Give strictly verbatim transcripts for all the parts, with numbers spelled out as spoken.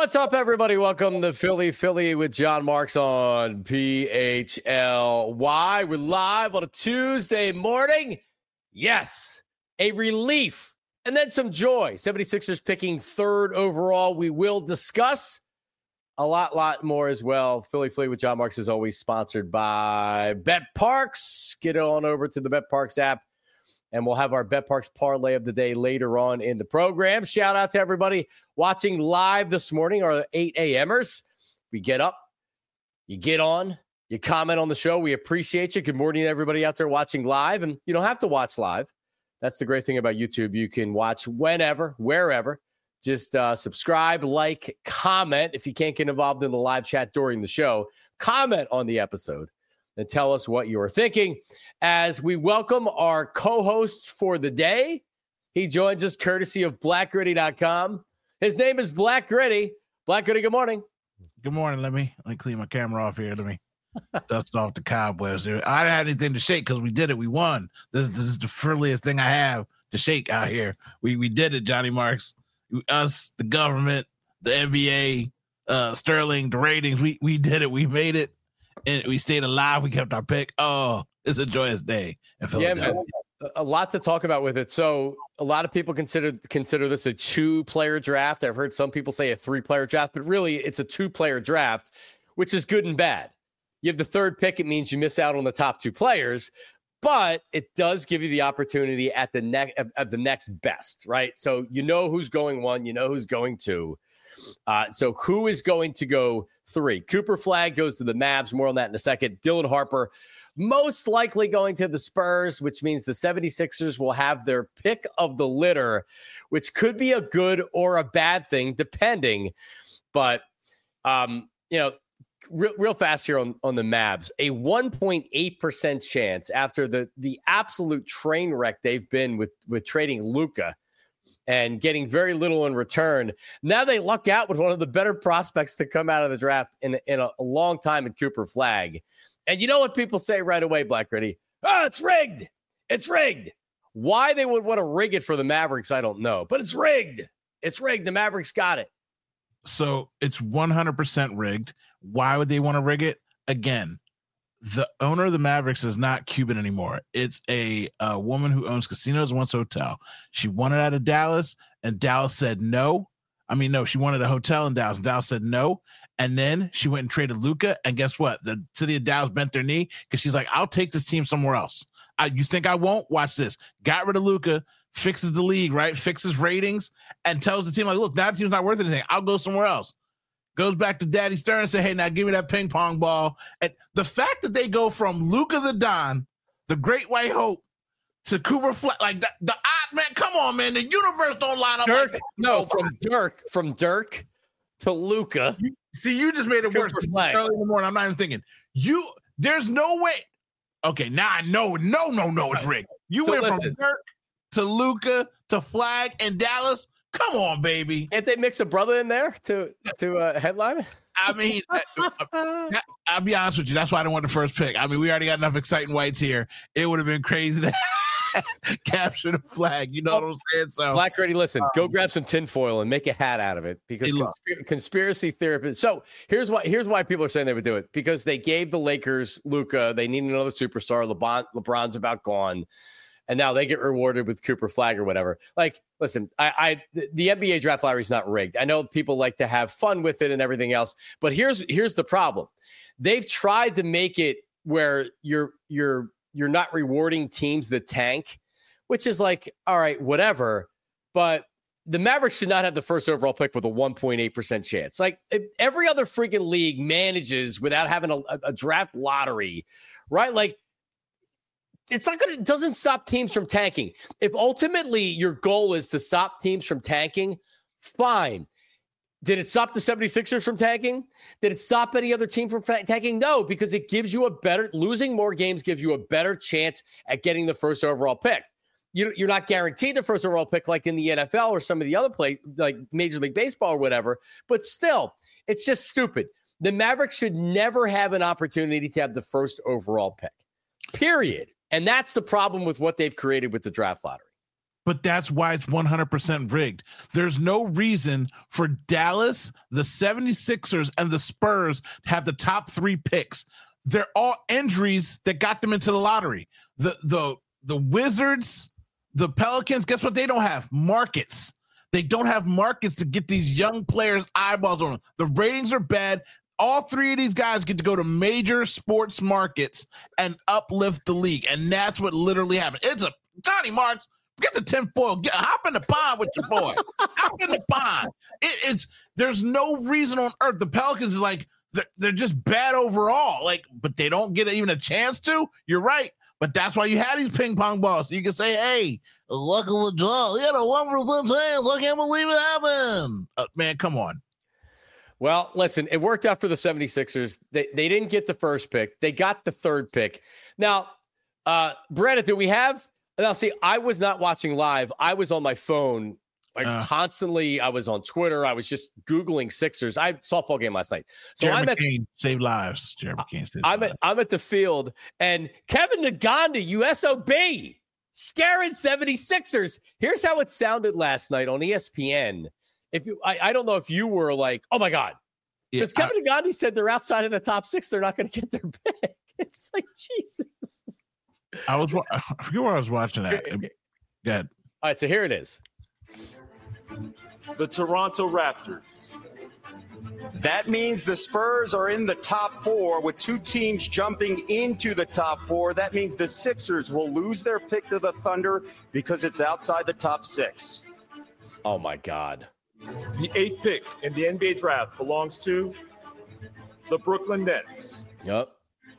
What's up, everybody? Welcome to Philly Philly with John Marks on P H L Y. We're live on a Tuesday morning. Yes, a relief and then some joy. seventy-sixers picking third overall. We will discuss a lot, lot more as well. Philly Philly with John Marks is always sponsored by BetParx. Get on over to the BetParx app, and we'll have our BetParx parlay of the day later on in the program. Shout out to everybody watching live this morning, our eight a.m.ers. We get up, you get on, you comment on the show. We appreciate you. Good morning to everybody out there watching live. And you don't have to watch live. That's the great thing about YouTube. You can watch whenever, wherever. Just uh, subscribe, like, comment. If you can't get involved in the live chat during the show, comment on the episode and tell us what you are thinking as we welcome our co-hosts for the day. He joins us courtesy of black gritty dot com. His name is Black Gritty. Black Gritty, good morning. Good morning. Let me let me clean my camera off here. Let me dust off the cobwebs here. I didn't have anything to shake because we did it. We won. This, this is the frilliest thing I have to shake out here. We we did it, Johnny Marks. Us, the government, the N B A, uh, Sterling, the ratings. We we did it. We made it. And we stayed alive. We kept our pick. Oh, it's a joyous day. Yeah, man. A lot to talk about with it. So a lot of people consider consider this a two-player draft. I've heard some people say a three-player draft, but really it's a two-player draft, which is good and bad. You have the third pick. It means you miss out on the top two players, but it does give you the opportunity at the next of, of the next best, right? So you know who's going one, you know who's going two. Uh, so who is going to go three? Cooper Flagg goes to the Mavs. More on that in a second. Dylan Harper most likely going to the Spurs, which means the seventy-sixers will have their pick of the litter, which could be a good or a bad thing, depending. But, um, you know, real, real fast here on, on the Mavs, a one point eight percent chance after the the absolute train wreck they've been with, with trading Luka and getting very little in return. Now they luck out with one of the better prospects to come out of the draft in, in a, a long time in Cooper Flagg. And you know what people say right away, Black Gritty? Oh, it's rigged. It's rigged. Why they would want to rig it for the Mavericks, I don't know. But it's rigged. It's rigged. The Mavericks got it. So it's one hundred percent rigged. Why would they want to rig it? Again, the owner of the Mavericks is not Cuban anymore. It's a, a woman who owns casinos and wants a hotel. She wanted out of Dallas, and Dallas said no. I mean, no, she wanted a hotel in Dallas, and Dallas said no. And then she went and traded Luka, and guess what? The city of Dallas bent their knee because she's like, I'll take this team somewhere else. I, you think I won't? Watch this. Got rid of Luka, fixes the league, right? Fixes ratings, and tells the team, like, look, now the team's not worth anything. I'll go somewhere else. Goes back to Daddy Stern and say, hey, now give me that ping pong ball. And the fact that they go from Luka the Don, the great white hope, to Cooper Flagg, like the, the odd man, come on, man. The universe don't line up. Dirk, like no, from Dirk, from Dirk to Luka. See, you just made it Cooper worse. Flagg. Early in the morning, I'm not even thinking. You, there's no way. Okay, now I know. No, no, no, it's rigged. You So went listen. from Dirk to Luka to Flagg and Dallas. Come on, baby. Can't they mix a brother in there to to uh, headline? I mean, I, I, I'll be honest with you. That's why I didn't want the first pick. I mean, we already got enough exciting whites here. It would have been crazy to capture the flag. You know what I'm saying? So, Black Gritty, listen, um, go grab some tinfoil and make a hat out of it because Hey, look. conspir- conspiracy therapists. So here's why. Here's why people are saying they would do it because they gave the Lakers Luka. They need another superstar. LeBron, LeBron's about gone, and now they get rewarded with Cooper Flagg or whatever. Like, listen, I, I the N B A draft lottery is not rigged. I know people like to have fun with it and everything else, but here's here's the problem. They've tried to make it where you're you're you're not rewarding teams that tank, which is like, all right, whatever. But the Mavericks should not have the first overall pick with a one point eight percent chance. Like every other freaking league manages without having a, a draft lottery, right? Like it's not going to, it doesn't stop teams from tanking. If ultimately your goal is to stop teams from tanking, fine. Did it stop the seventy-sixers from tanking? Did it stop any other team from tanking? No, because it gives you a better, losing more games gives you a better chance at getting the first overall pick. You, you're not guaranteed the first overall pick like in the N F L or some of the other play, like Major League Baseball or whatever, but still, it's just stupid. The Mavericks should never have an opportunity to have the first overall pick, period. And that's the problem with what they've created with the draft lottery. but that's why it's one hundred percent rigged. There's no reason for Dallas, the seventy-sixers, and the Spurs to have the top three picks. They're all injuries that got them into the lottery. The the the Wizards, the Pelicans, guess what? They don't have markets. They don't have markets to get these young players eyeballs on them. The ratings are bad. All three of these guys get to go to major sports markets and uplift the league. And that's what literally happened. It's a Johnny Marks, get the tinfoil, get hop in the pond with your boy. Hop in the pond. It, it's there's no reason on earth. The Pelicans are like, they're, they're just bad overall. Like, but they don't get even a chance to. You're right. But that's why you had these ping pong balls. So you can say, hey, look at the draw. You had a one percent chance. I can't believe it happened. Uh, man, come on. Well, listen, it worked out for the seventy-sixers. They they didn't get the first pick. They got the third pick. Now, uh, Brandon, do we have – now, see, I was not watching live. I was on my phone like uh, constantly. I was on Twitter. I was just Googling Sixers. I saw a football game last night. So Jared I'm McCain at, saved lives. Jared McCain saved I'm lives. At, I'm at the field, and Kevin Naganda, U S O B, scaring seventy-sixers. Here's how it sounded last night on E S P N. If you, I, I don't know if you were like, oh my God, because yeah, Kevin Nagandi said they're outside of the top six. They're not going to get their pick. It's like, Jesus. I was, I forget where I was watching that. Go ahead. All right. So here it is. The Toronto Raptors. That means the Spurs are in the top four with two teams jumping into the top four. That means the Sixers will lose their pick to the Thunder because it's outside the top six. Oh my God. The eighth pick in the N B A draft belongs to the Brooklyn Nets. Yep.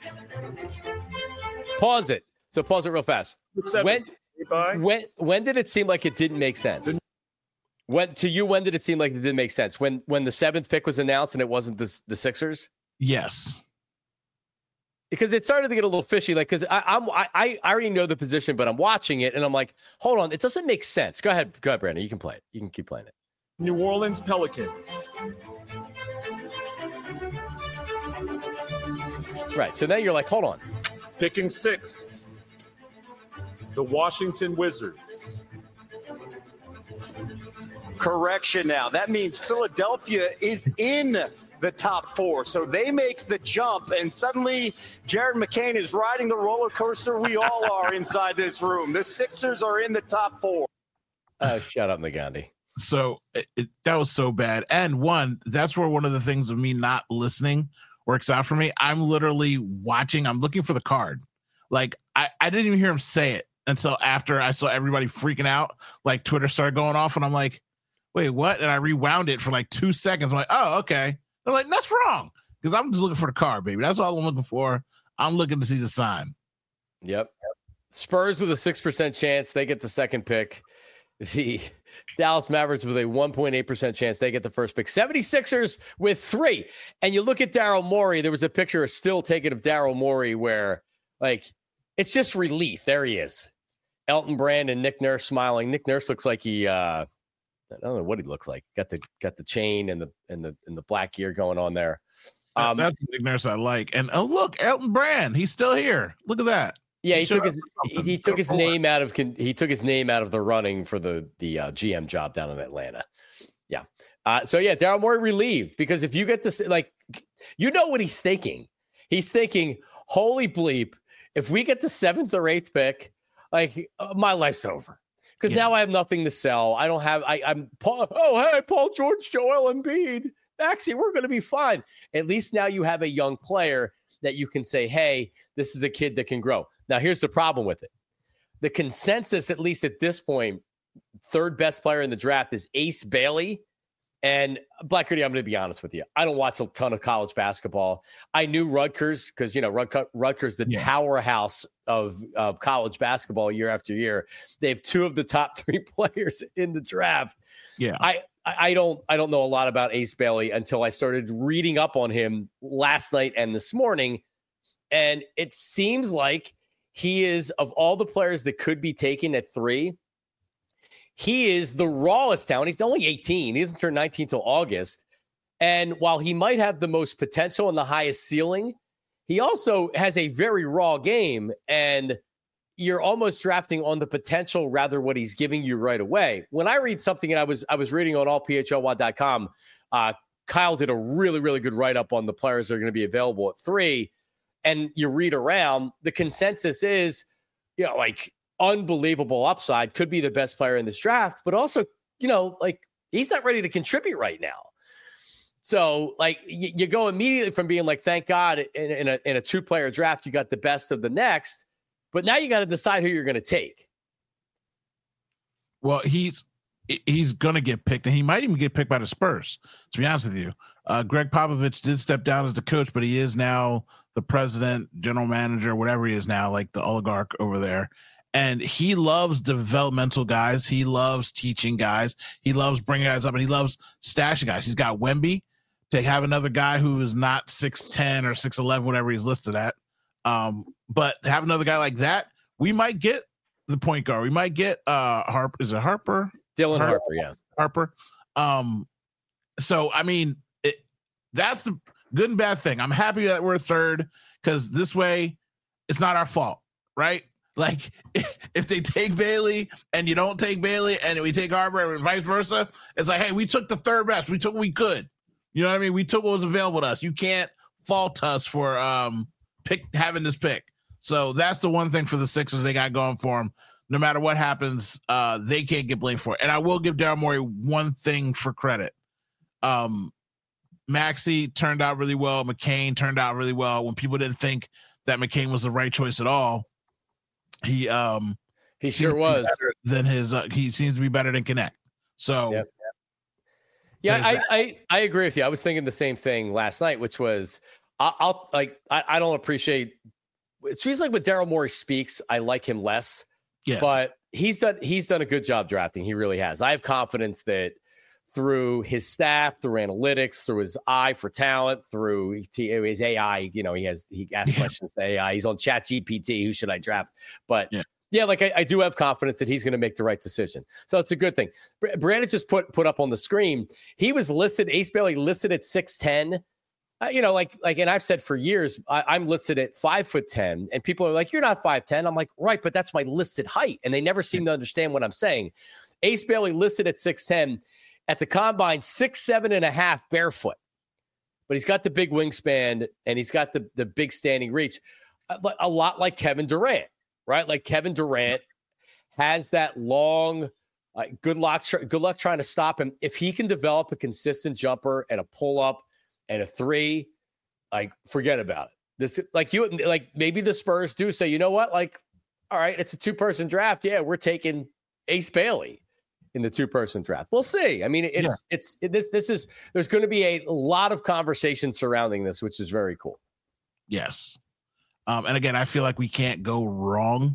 Pause it. So pause it real fast. When, when, when did it seem like it didn't make sense? When to you, when did it seem like it didn't make sense? When when the seventh pick was announced and it wasn't the, the Sixers? Yes. Because it started to get a little fishy. Like, because I'm I, I already know the position, but I'm watching it and I'm like, hold on, it doesn't make sense. Go ahead, go ahead, Brandon. You can play it. You can keep playing it. New Orleans Pelicans. Right. So then you're like, hold on. Picking sixth, the Washington Wizards. Correction now. That means Philadelphia is in the top four. So they make the jump, and suddenly Jared McCain is riding the roller coaster we all are inside this room. The Sixers are in the top four. Oh, shut up, Nagandi. So it, it, that was so bad. And one, that's where one of the things of me not listening works out for me. I'm literally watching. I'm looking for the card. Like, I, I didn't even hear him say it until after I saw everybody freaking out. Like, Twitter started going off, and I'm like, wait, what? And I rewound it for like two seconds. I'm like, oh, okay. They're like, that's wrong. Because I'm just looking for the card, baby. That's all I'm looking for. I'm looking to see the sign. Yep. Spurs with a six percent chance. They get the second pick. The Dallas Mavericks with a one point eight percent chance. They get the first pick. seventy-sixers with three. And you look at Daryl Morey. There was a picture, a still taken of Daryl Morey where, like, it's just relief. There he is. Elton Brand and Nick Nurse smiling. Nick Nurse looks like he, uh, I don't know what he looks like. Got the got the chain and the and the and the black gear going on there. Um, That's the Nick Nurse I like. And oh look, Elton Brand, he's still here. Look at that. Yeah, he, he took his he, he took his name out of he took his name out of the running for the the uh, G M job down in Atlanta. Yeah. Uh, so yeah, Daryl Morey relieved because if you get this, like, you know what he's thinking. He's thinking, holy bleep, if we get the seventh or eighth pick, like, uh, my life's over. Because yeah. now I have nothing to sell. I don't have, I, I'm, Paul, oh, hey, Paul George, Joel Embiid, Maxey, we're going to be fine. At least now you have a young player that you can say, hey, this is a kid that can grow. Now, here's the problem with it. The consensus, at least at this point, third best player in the draft is Ace Bailey. And Black Gritty, I'm going to be honest with you. I don't watch a ton of college basketball. I knew Rutgers because, you know, Rutgers, the yeah. powerhouse of, of college basketball year after year. They have two of the top three players in the draft. Yeah. I, I don't I don't know a lot about Ace Bailey until I started reading up on him last night and this morning. And it seems like he is, of all the players that could be taken at three, he is the rawest talent. He's only eighteen. He doesn't turn nineteen until August. And while he might have the most potential and the highest ceiling, he also has a very raw game. And you're almost drafting on the potential rather what he's giving you right away. When I read something, and I was I was reading on all P H L Y dot com, uh, Kyle did a really, really good write-up on the players that are going to be available at three. And you read around, the consensus is, you know, like unbelievable upside, could be the best player in this draft, but also, you know, like he's not ready to contribute right now. So like you, you go immediately from being like, thank God in, in a, in a two-player draft, you got the best of the next, but now you got to decide who you're going to take. Well, he's, he's going to get picked, and he might even get picked by the Spurs, to be honest with you. Uh, Greg Popovich did step down as the coach, but he is now the president, general manager, whatever he is now, like the oligarch over there. And he loves developmental guys. He loves teaching guys. He loves bringing guys up, and he loves stashing guys. He's got Wemby to have another guy who is not six ten or six eleven, whatever he's listed at. Um, but to have another guy like that, we might get the point guard. We might get uh, Harper. Is it Harper? Dylan Harper, Harper, yeah. Harper. Um, so, I mean, it, that's the good and bad thing. I'm happy that we're third because this way it's not our fault, right? Like, if they take Bailey and you don't take Bailey and we take Harper and vice versa, it's like, hey, we took the third best. We took what we could. You know what I mean? We took what was available to us. You can't fault us for um pick having this pick. So that's the one thing for the Sixers they got going for them. No matter what happens, uh, they can't get blamed for it. And I will give Daryl Morey one thing for credit. Um, Maxey turned out really well. McCain turned out really well. When people didn't think that McCain was the right choice at all, he um he sure was. Than his, uh, he seems to be better than Connect. So, yep. yeah, I, I I agree with you. I was thinking the same thing last night, which was I'll, I'll like I, I don't appreciate. It seems like when Daryl Morey speaks, I like him less. Yes. But he's done he's done a good job drafting. He really has. I have confidence that through his staff, through analytics, through his eye for talent, through his A I, you know, he has he asks yeah. questions to A I. He's on Chat G P T. Who should I draft? But yeah, yeah like I, I do have confidence that he's going to make the right decision. So it's a good thing. Brandon just put put up on the screen. He was listed. Ace Bailey listed at six ten. Uh, you know, like, like, and I've said for years, I, I'm listed at five foot ten, and people are like, "You're not five ten." I'm like, right, but that's my listed height, and they never seem to understand what I'm saying. Ace Bailey listed at six ten, at the combine, six seven and a half barefoot, but he's got the big wingspan and he's got the the big standing reach, a, a lot like Kevin Durant, right? Like Kevin Durant has that long. Uh, good luck, good luck trying to stop him. If he can develop a consistent jumper and a pull up. And a three, like, forget about it. This, like you, like maybe the Spurs do say, you know what? Like, all right, it's a two-person draft. Yeah, we're taking Ace Bailey in the two-person draft. We'll see. I mean, it's yeah. it's it, this this is there's going to be a lot of conversation surrounding this, which is very cool. Yes, um, and again, I feel like we can't go wrong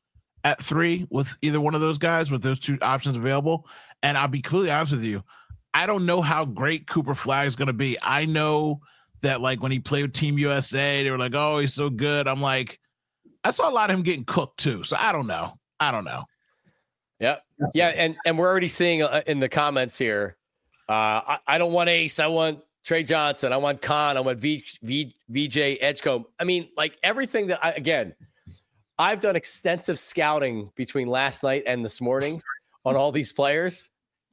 at three with either one of those guys with those two options available. And I'll be completely honest with you. I don't know how great Cooper Flag is going to be. I know that, like, when he played with Team U S A, they were like, oh, he's so good. I'm like, I saw a lot of him getting cooked, too. So I don't know. I don't know. Yeah. Yeah. And, and we're already seeing uh, in the comments here, uh, I, I don't want Ace. I want Trey Johnson. I want Khan. I want v, v, V J Edgecombe. I mean, like, everything that I, again, I've done extensive scouting between last night and this morning on all these players.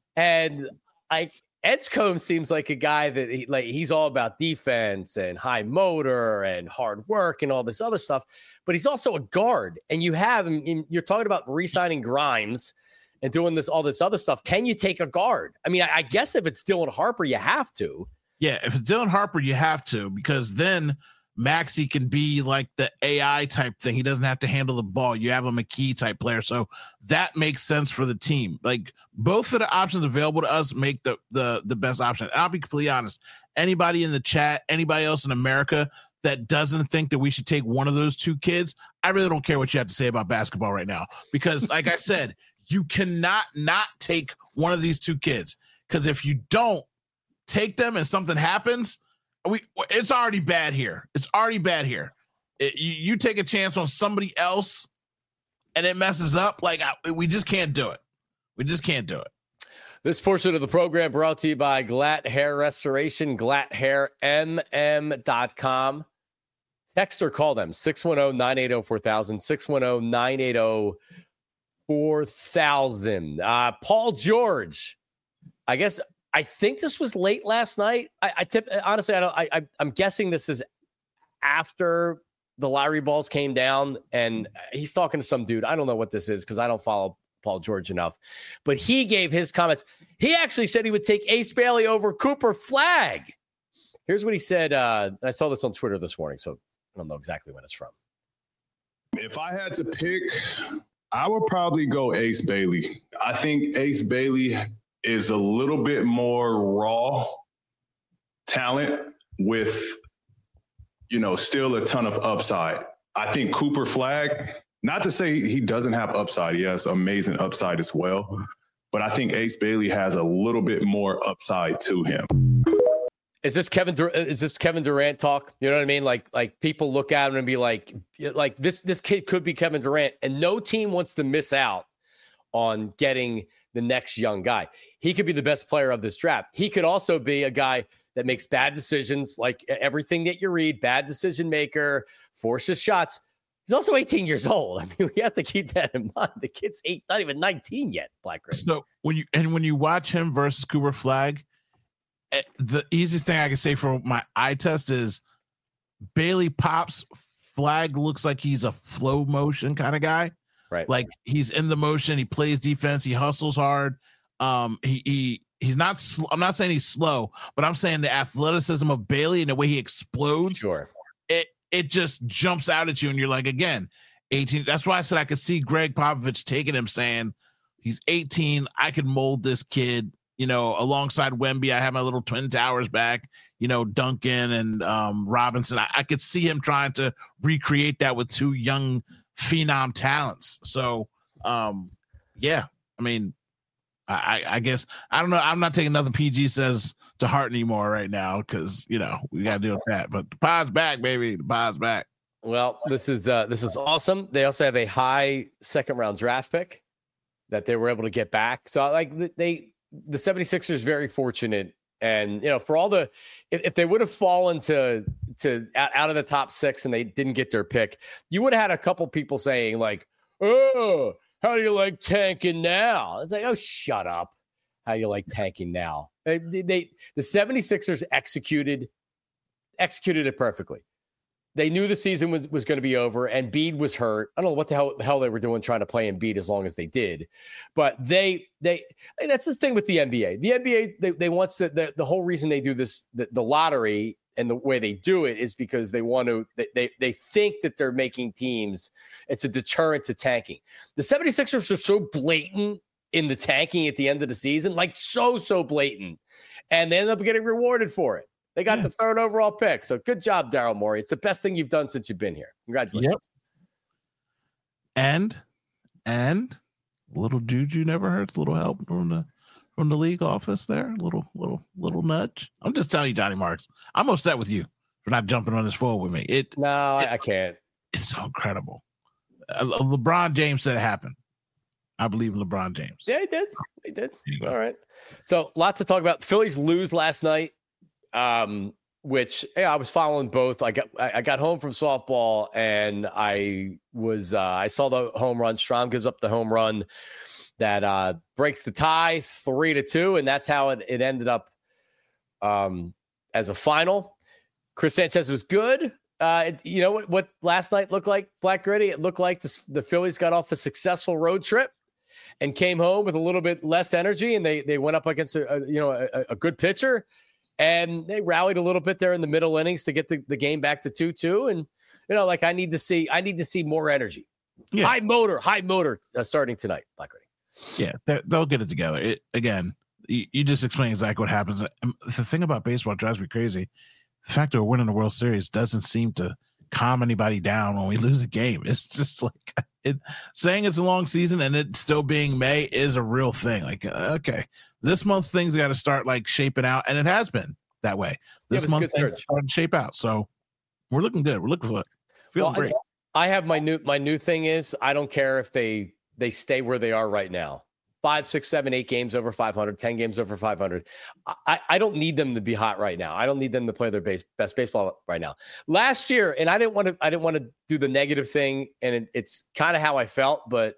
And like Edgecombe seems like a guy that he, like he's all about defense and high motor and hard work and all this other stuff, but he's also a guard. And you have him. You're talking about re-signing Grimes and doing this all this other stuff. Can you take a guard? I mean, I, I guess if it's Dylan Harper, you have to. Yeah, if it's Dylan Harper, you have to, because then Maxey can be like the A I type thing. He doesn't have to handle the ball. You have a McKee type player. So that makes sense for the team. Like, both of the options available to us make the the the best option. And I'll be completely honest. Anybody in the chat, anybody else in America that doesn't think that we should take one of those two kids, I really don't care what you have to say about basketball right now. Because like I said, you cannot not take one of these two kids. Because if you don't take them and something happens, We it's already bad here. It's already bad here. It, you, you take a chance on somebody else, and it messes up. Like I, we just can't do it. We just can't do it. This portion of the program brought to you by Glatt Hair Restoration, glatt hair m m dot com. Text or call them six one zero, nine eight zero, four thousand, six one zero, nine eight zero, four thousand. Uh, Paul George, I guess, I think this was late last night. I, I tip, honestly, I don't, I, I, I'm guessing this is after the lottery balls came down, and he's talking to some dude. I don't know what this is because I don't follow Paul George enough, but he gave his comments. He actually said he would take Ace Bailey over Cooper Flagg. Here's what he said. Uh, I saw this on Twitter this morning, so I don't know exactly when it's from. If I had to pick, I would probably go Ace Bailey. I think Ace Bailey is a little bit more raw talent with, you know, still a ton of upside. I think Cooper Flagg, not to say he doesn't have upside. He has amazing upside as well. But I think Ace Bailey has a little bit more upside to him. Is this Kevin? Dur- is this Kevin Durant talk? You know what I mean? Like, like people look at him and be like, like this, this kid could be Kevin Durant, and no team wants to miss out on getting the next young guy. He could be the best player of this draft. He could also be a guy that makes bad decisions, like everything that you read, bad decision maker, forces shots. He's also eighteen years old. I mean, we have to keep that in mind. The kid's eight, not even nineteen yet, Black Grid. So when you, and when you watch him versus Cooper Flagg, the easiest thing I can say for my eye test is Bailey pops. Flagg looks like he's a flow motion kind of guy. Right. Like he's in the motion. He plays defense. He hustles hard. Um, he, he, he's not, sl- I'm not saying he's slow, but I'm saying the athleticism of Bailey and the way he explodes. Sure. It, it just jumps out at you. And you're like, again, eighteen. That's why I said I could see Greg Popovich taking him saying he's eighteen. I could mold this kid. You know, alongside Wemby, I have my little Twin Towers back, you know, Duncan and um, Robinson. I, I could see him trying to recreate that with two young phenom talents. So, um, yeah, I mean, I, I guess, I don't know. I'm not taking nothing P G says to heart anymore right now because, you know, we got to deal with that. But the pod's back, baby. The pod's back. Well, this is uh, this is awesome. They also have a high second round draft pick that they were able to get back. So, like, they, the 76ers very fortunate, and you know, for all the if, if they would have fallen to to out of the top six and they didn't get their pick, you would have had a couple people saying like, "Oh, how do you like tanking now?" It's like, "Oh, shut up! How do you like tanking now?" They, they the 76ers executed executed it perfectly. They knew the season was, was going to be over, and Embiid was hurt. I don't know what the hell, the hell they were doing trying to play Embiid as long as they did. But they, they, that's the thing with the N B A. The N B A, they, they want to, the, the whole reason they do this, the, the lottery and the way they do it is because they want to, they, they, they think that they're making teams, it's a deterrent to tanking. The 76ers are so blatant in the tanking at the end of the season, like so, so blatant. And they end up getting rewarded for it. They got yeah. the third overall pick. So good job, Daryl Morey. It's the best thing you've done since you've been here. Congratulations. Yep. And, and a little juju never hurts. A little help from the, from the league office there. A little, little, little nudge. I'm just telling you, Johnny Marks, I'm upset with you for not jumping on this forward with me. It No, it, I can't. It's so incredible. Uh, LeBron James said it happened. I believe in LeBron James. Yeah, he did. He did. All right. So lots to talk about. The Phillies lose last night. Um, which yeah, I was following both. I got I got home from softball and I was uh, I saw the home run. Strom gives up the home run that uh, breaks the tie three to two, and that's how it, it ended up um, as a final. Chris Sanchez was good. Uh, it, you know what, what last night looked like, Black Gritty? It looked like the, the Phillies got off a successful road trip and came home with a little bit less energy, and they they went up against a, a you know a, a good pitcher. And they rallied a little bit there in the middle innings to get the, the game back to two two. And, you know, like I need to see, I need to see more energy. Yeah. High motor, high motor uh, starting tonight. Black Ready. Yeah, they'll get it together. It, again, you, you just explained exactly what happens. The thing about baseball drives me crazy. The fact that we're winning the World Series doesn't seem to calm anybody down when we lose a game. It's just like it, saying it's a long season and it still being May is a real thing. Like, okay, this month things got to start like shaping out, and it has been that way. This yeah, month things started to shape out, so we're looking good. We're looking for it. Feeling well, great. I, I have my new my new thing is I don't care if they they stay where they are right now. five, six, seven, eight games over five hundred, ten games over five hundred. I, I don't need them to be hot right now. I don't need them to play their base, best baseball right now. Last year, and I didn't want to, I didn't want to do the negative thing, and it, it's kind of how I felt, but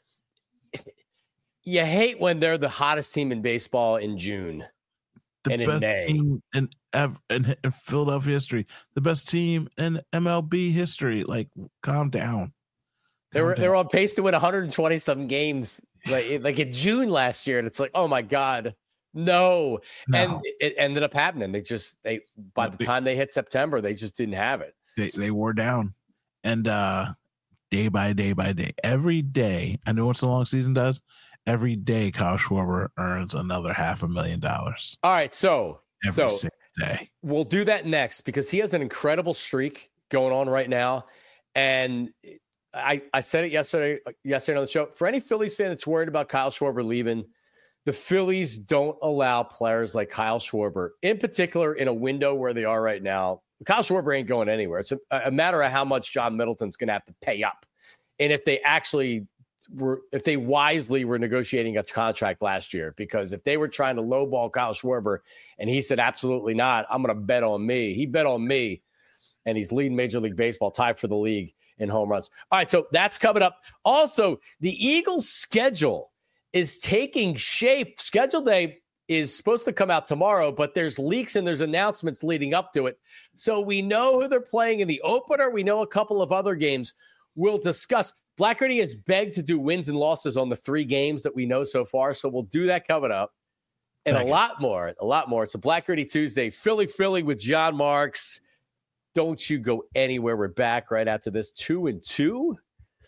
you hate when they're the hottest team in baseball in June the and in best May. Team in, in, in Philadelphia history, the best team in M L B history. Like, calm down. They were they were on pace to win one hundred twenty some games like like in June last year, and it's like, oh my god, no. no. And it ended up happening. They just they by the time they hit September, they just didn't have it. They they wore down, and uh, day by day by day, every day. I know what the long season does. Every day, Kyle Schwarber earns another half a million dollars. All right, so every so day we'll do that next because he has an incredible streak going on right now, and I, I said it yesterday, yesterday on the show. For any Phillies fan that's worried about Kyle Schwarber leaving, the Phillies don't allow players like Kyle Schwarber, in particular in a window where they are right now. Kyle Schwarber ain't going anywhere. It's a, a matter of how much John Middleton's going to have to pay up. And if they actually were, if they wisely were negotiating a contract last year, because if they were trying to lowball Kyle Schwarber and he said, absolutely not, I'm going to bet on me. He bet on me. And he's leading Major League Baseball, tied for the league in home runs. All right, so that's coming up. Also, the Eagles' schedule is taking shape. Schedule day is supposed to come out tomorrow, but there's leaks and there's announcements leading up to it. So we know who they're playing in the opener. We know a couple of other games we'll discuss. Blackguardy has begged to do wins and losses on the three games that we know so far, so we'll do that coming up. And Thank a you. lot more, a lot more. It's a Blackguardy Tuesday. Philly, Philly with John Marks. Don't you go anywhere. We're back right after this two and two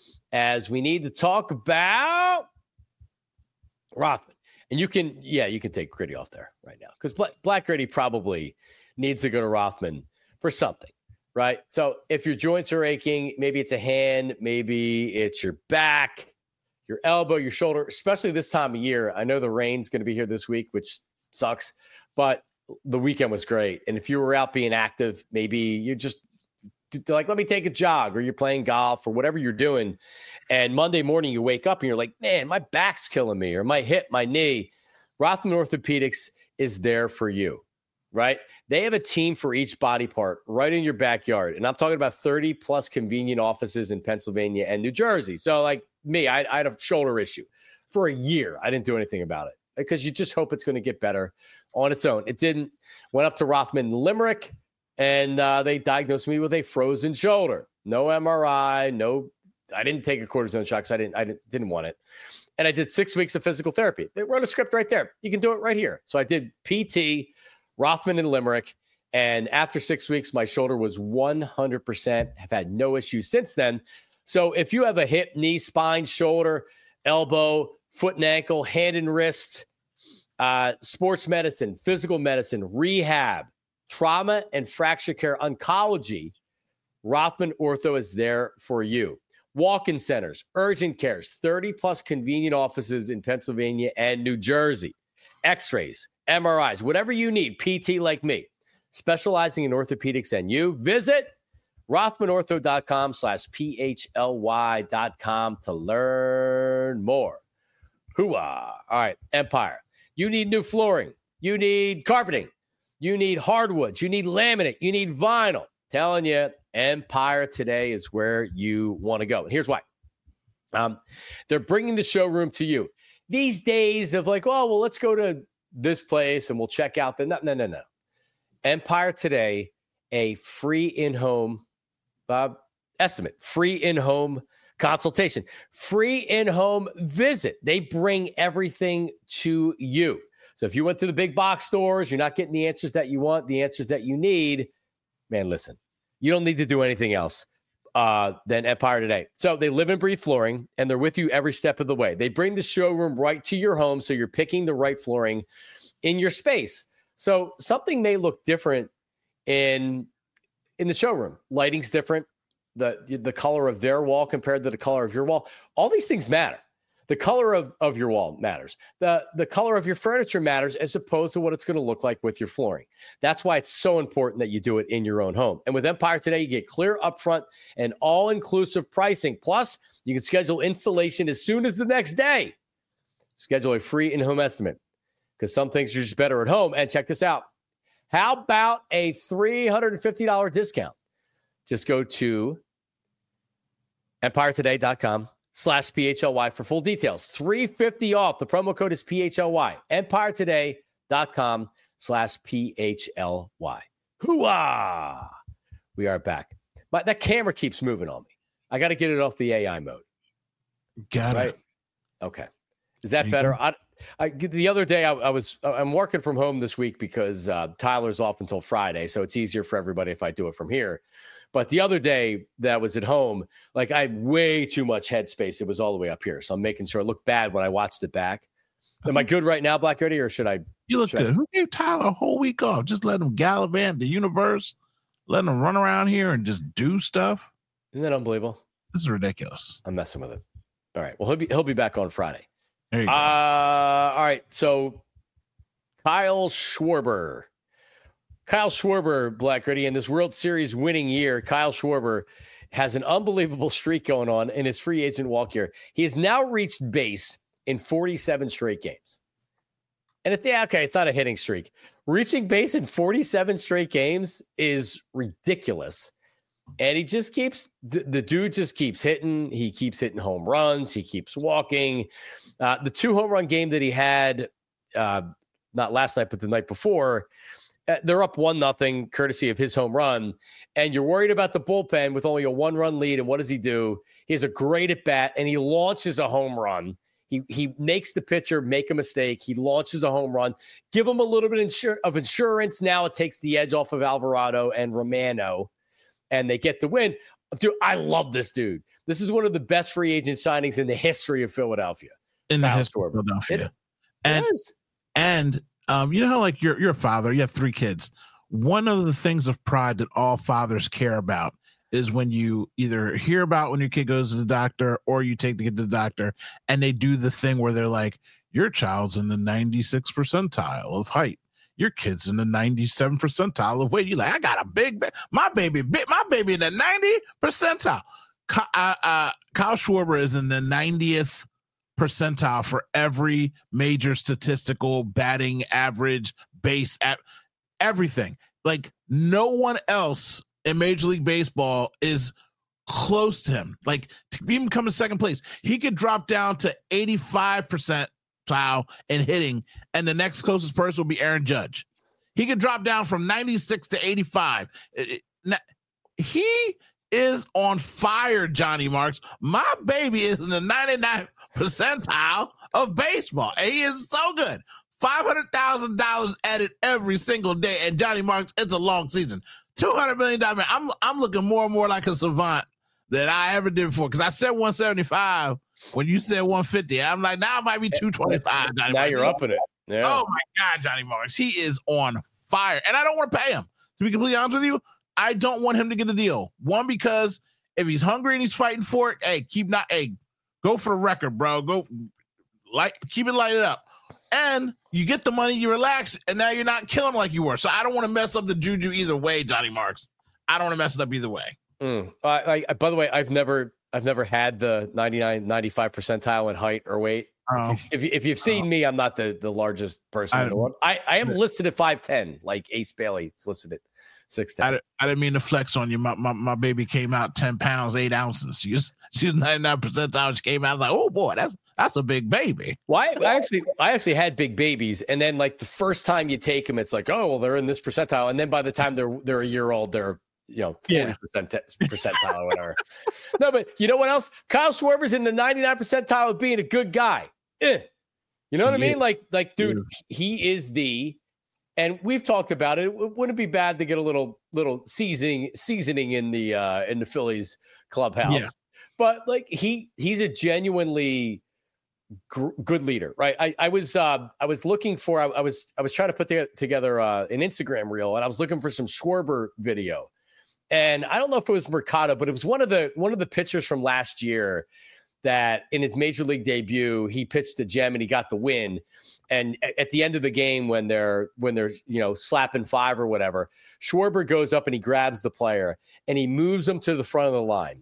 as we need to talk about Rothman. And you can, yeah, you can take Gritty off there right now because Black, Black Gritty probably needs to go to Rothman for something, right? So if your joints are aching, maybe it's a hand, maybe it's your back, your elbow, your shoulder, especially this time of year. I know the rain's going to be here this week, which sucks, but the weekend was great. And if you were out being active, maybe you're just like, let me take a jog, or you're playing golf or whatever you're doing. And Monday morning you wake up and you're like, man, my back's killing me, or my hip, my knee. Rothman Orthopedics is there for you, right? They have a team for each body part right in your backyard. And I'm talking about thirty plus convenient offices in Pennsylvania and New Jersey. So like me, I, I had a shoulder issue for a year. I didn't do anything about it because you just hope it's going to get better on its own. It didn't. Went up to Rothman Limerick, and uh, they diagnosed me with a frozen shoulder. No M R I, no. I didn't take a cortisone shot because I didn't. I didn't, didn't want it. And I did six weeks of physical therapy. They wrote a script right there. You can do it right here. So I did P T, Rothman and Limerick, and after six weeks, my shoulder was one hundred percent. Have had no issues since then. So if you have a hip, knee, spine, shoulder, elbow, foot and ankle, hand and wrist, uh, sports medicine, physical medicine, rehab, trauma and fracture care, oncology, Rothman Ortho is there for you. Walk-in centers, urgent cares, thirty plus convenient offices in Pennsylvania and New Jersey. X-rays, M R Is, whatever you need, P T like me, specializing in orthopedics and you. Visit rothmanortho.com slash P-H-L-Y dot com to learn more. Hooah. All right, Empire. You need new flooring. You need carpeting. You need hardwoods. You need laminate. You need vinyl. Telling you, Empire today is where you want to go. And here's why. Um, they're bringing the showroom to you. These days of like, oh, well, let's go to this place and we'll check out the, no, no, no, no. Empire today, a free in-home uh, estimate, free in-home consultation, free in-home visit. They bring everything to you. So if you went to the big box stores, you're not getting the answers that you want, the answers that you need, man, listen, you don't need to do anything else uh, than Empire today. So they live and breathe flooring, and they're with you every step of the way. They bring the showroom right to your home, so you're picking the right flooring in your space. So something may look different in, in the showroom. Lighting's different. The, the color of their wall compared to the color of your wall. All these things matter. The color of, of your wall matters. The, the color of your furniture matters as opposed to what it's going to look like with your flooring. That's why it's so important that you do it in your own home. And with Empire today, you get clear upfront and all-inclusive pricing. Plus, you can schedule installation as soon as the next day. Schedule a free in-home estimate because some things are just better at home. And check this out. How about a three hundred fifty dollars discount? Just go to empiretoday.com slash PHLY for full details. three hundred fifty dollars off. The promo code is P H L Y. empiretoday.com slash PHLY. Hooah! We are back. My, that camera keeps moving on me. I got to get it off the A I mode. Got right? it. Okay. Is that better? I, I, the other day, I, I was I'm working from home this week because uh, Tyler's off until Friday, so it's easier for everybody if I do it from here. But the other day that I was at home, like I had way too much headspace. It was all the way up here, so I'm making sure it looked bad when I watched it back. Am I good right now, Black Ready, or should I? You look good. I... Who gave Tyler a whole week off? Just let him gallivant the universe, let him run around here and just do stuff. Isn't that unbelievable? This is ridiculous. I'm messing with it. All right. Well, he'll be he'll be back on Friday. There you go. Uh, all right. So Kyle Schwarber. Kyle Schwarber, Black Ready, in this World Series winning year, Kyle Schwarber has an unbelievable streak going on in his free agent walk year. He has now reached base in forty-seven straight games. And it's, yeah, okay, it's not a hitting streak. Reaching base in forty-seven straight games is ridiculous. And he just keeps, the, the dude just keeps hitting. He keeps hitting home runs. He keeps walking. Uh, the two home run game that he had, uh, not last night, but the night before, uh, they're up one nothing, courtesy of his home run. And you're worried about the bullpen with only a one run lead. And what does he do? He has a great at bat and he launches a home run. He he makes the pitcher make a mistake. He launches a home run. Give him a little bit insur- of insurance. Now it takes the edge off of Alvarado and Romano, and they get the win. Dude, I love this dude. This is one of the best free agent signings in the history of Philadelphia. In the history of Philadelphia. It, and it is. and um, you know how, like, you're, you're a father, you have three kids. One of the things of pride that all fathers care about is when you either hear about when your kid goes to the doctor or you take the kid to the doctor and they do the thing where they're like, your child's in the ninety-sixth percentile of height. Your kid's in the ninety-seven percentile of weight. You're like, I got a big, ba- my baby, big, my baby in the ninety percentile. Uh, uh, Kyle Schwarber is in the ninetieth percentile for every major statistical batting average, base, at everything. Like, no one else in Major League Baseball is close to him. Like, to even come in second place, he could drop down to eighty-five percentile in hitting, and the next closest person will be Aaron Judge. He could drop down from ninety-six to eighty-five. It, it, he is on fire, Johnny Marks. My baby is in the ninety-ninth percentile of baseball, and he is so good. five hundred thousand dollars added every single day, and Johnny Marks, it's a long season. two hundred million dollars. I'm I'm looking more and more like a savant than I ever did before. Because I said one seventy-five when you said one fifty. I'm like, now it might be two twenty-five. Johnny now Marks. You're up in it. Yeah. Oh my God, Johnny Marks. He is on fire. And I don't want to pay him. To be completely honest with you, I don't want him to get a deal. One, because if he's hungry and he's fighting for it, hey, keep not hey, go for the record, bro. Go like keep it lighted up. And you get the money, you relax, and now you're not killing like you were. So I don't want to mess up the juju either way, Johnny Marks. I don't want to mess it up either way. Mm. I, I, by the way, I've never, I've never had the ninety-nine, ninety-five percentile in height or weight. Oh. If, if, if you've seen oh. me, I'm not the, the largest person I, in the world. I, I am listed at five ten, like Ace Bailey. It's listed at six ten. I, I didn't mean to flex on you. My, my my baby came out ten pounds, eight ounces. She was, she was ninety-nine percentile. She came out like, oh boy, that's that's a big baby. Well, I, I actually I actually had big babies, and then like the first time you take them, it's like, oh well, they're in this percentile, and then by the time they're they're a year old, they're you know forty percent percentile or whatever. No, but you know what else? Kyle Schwarber's in the ninety-nine percentile of being a good guy. Eh. You know what I mean? Is. Like like dude, he is the. And we've talked about it. Wouldn't it be bad to get a little little seasoning seasoning in the uh, in the Phillies clubhouse? Yeah. But like he he's a genuinely gr- good leader, right? I, I was uh, I was looking for I, I was I was trying to put the, together uh, an Instagram reel, and I was looking for some Schwarber video, and I don't know if it was Mercado, but it was one of the one of the pitchers from last year that in his major league debut he pitched the gem and he got the win. And at the end of the game, when they're when they're you know slapping five or whatever, Schwarber goes up and he grabs the player and he moves him to the front of the line.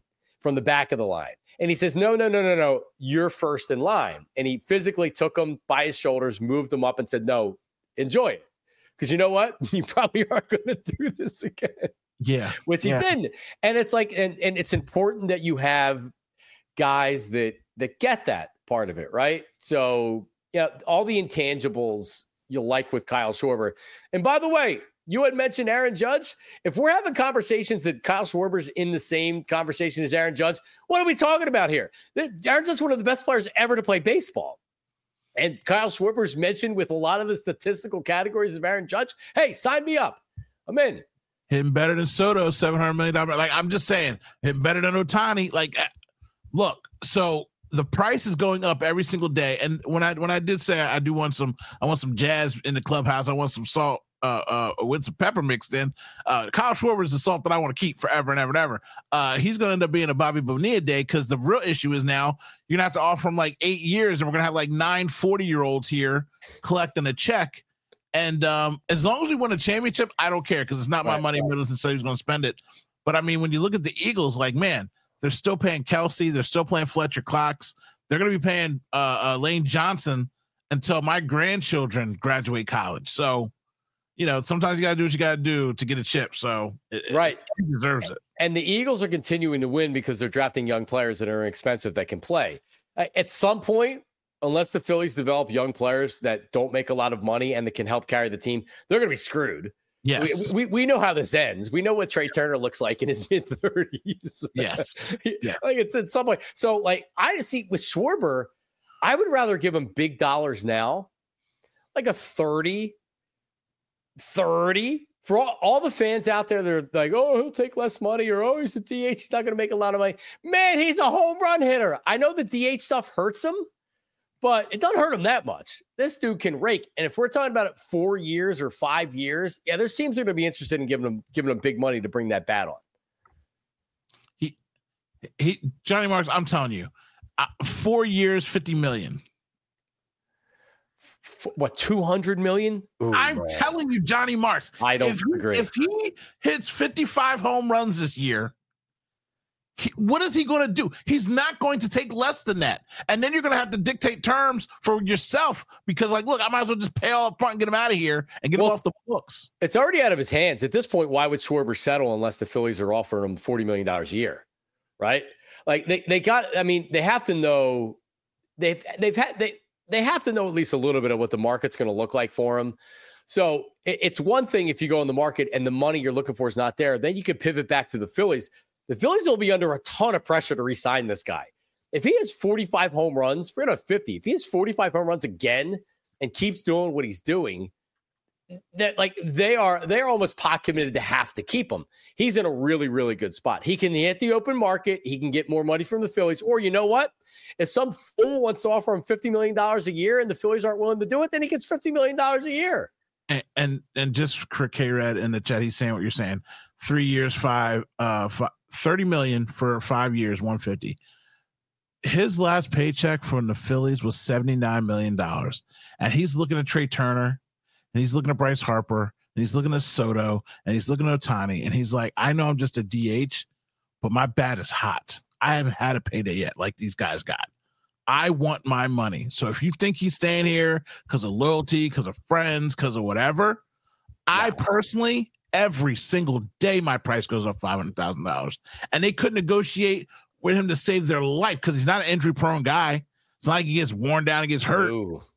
from the back of the line. And he says, no, no, no, no, no, you're first in line. And he physically took him by his shoulders, moved him up and said, no, enjoy it. Because you know what? You probably aren't going to do this again. Yeah. Which he yeah. didn't. And it's like, and, and it's important that you have guys that, that get that part of it, right? So, yeah, all the intangibles you like with Kyle Schwarber. And by the way, you had mentioned Aaron Judge. If we're having conversations that Kyle Schwarber's in the same conversation as Aaron Judge, what are we talking about here? Aaron Judge is one of the best players ever to play baseball. And Kyle Schwarber's mentioned with a lot of the statistical categories of Aaron Judge. Hey, sign me up. I'm in. Hitting better than Soto, seven hundred million dollars. Like, I'm just saying, hitting better than Ohtani. Like, look, so the price is going up every single day. And when I when I did say I do want some, I want some jazz in the clubhouse, I want some salt. Uh, uh, with some pepper mixed in. Uh, Kyle Schwarber is the salt that I want to keep forever and ever and ever. Uh, he's going to end up being a Bobby Bonilla day because the real issue is now you're going to have to offer him like eight years and we're going to have like nine forty-year-olds here collecting a check. And um, as long as we win a championship, I don't care because it's not my right, money. Right. Middleton said he was going to spend it. But, I mean, when you look at the Eagles, like, man, they're still paying Kelsey. They're still playing Fletcher Cox. They're going to be paying uh, uh, Lane Johnson until my grandchildren graduate college. So, you know, sometimes you got to do what you got to do to get a chip. So, it, right. He deserves it. And the Eagles are continuing to win because they're drafting young players that are inexpensive that can play. At some point, unless the Phillies develop young players that don't make a lot of money and that can help carry the team, they're going to be screwed. Yes. We, we we know how this ends. We know what Trey Turner looks like in his mid thirties. Yes. Yeah. Like it's at some point. So, like, I see with Schwarber, I would rather give him big dollars now, like a thirty. thirty for all, all the fans out there that are like, oh, he'll take less money, or oh, he's a D H, he's not going to make a lot of money. Man, he's a home run hitter. I know the D H stuff hurts him, but it doesn't hurt him that much. This dude can rake. And if we're talking about it four years or five years, yeah, there's teams that are going to be interested in giving him giving him big money to bring that bat on. He, he, Johnny Marks, I'm telling you, uh, four years, fifty million. What, two hundred million? Ooh, I'm man. telling you, Johnny Marks. I don't if agree. He, if he hits fifty-five home runs this year, he, what is he going to do? He's not going to take less than that. And then you're going to have to dictate terms for yourself because, like, look, I might as well just pay all up front and get him out of here and get well, him off the books. It's already out of his hands. At this point, why would Schwarber settle unless the Phillies are offering him forty million dollars a year, right? Like, they, they got – I mean, they have to know – they've they've had – they. They have to know at least a little bit of what the market's going to look like for him. So it's one thing if you go in the market and the money you're looking for is not there, then you could pivot back to the Phillies. The Phillies will be under a ton of pressure to re-sign this guy. If he has forty-five home runs, forget about fifty. If he has forty-five home runs again and keeps doing what he's doing, that like they are they're almost pot committed to have to keep him. He's in a really, really good spot. He can hit the open market. He can get more money from the Phillies. Or you know what? If some fool wants to offer him fifty million dollars a year and the Phillies aren't willing to do it, then he gets fifty million dollars a year. And and, and just for K-Red in the chat, he's saying what you're saying. Three years, five, uh, five, thirty million for five years, one fifty. His last paycheck from the Phillies was seventy-nine million dollars. And he's looking at Trey Turner, and he's looking at Bryce Harper, and he's looking at Soto, and he's looking at Ohtani, and he's like, I know I'm just a D H, but my bat is hot. I haven't had a payday yet like these guys got. I want my money. So if you think he's staying here because of loyalty, because of friends, because of whatever, no. I personally, every single day, my price goes up five hundred thousand dollars. And they couldn't negotiate with him to save their life because he's not an injury-prone guy. It's not like he gets worn down and gets hurt. No. No.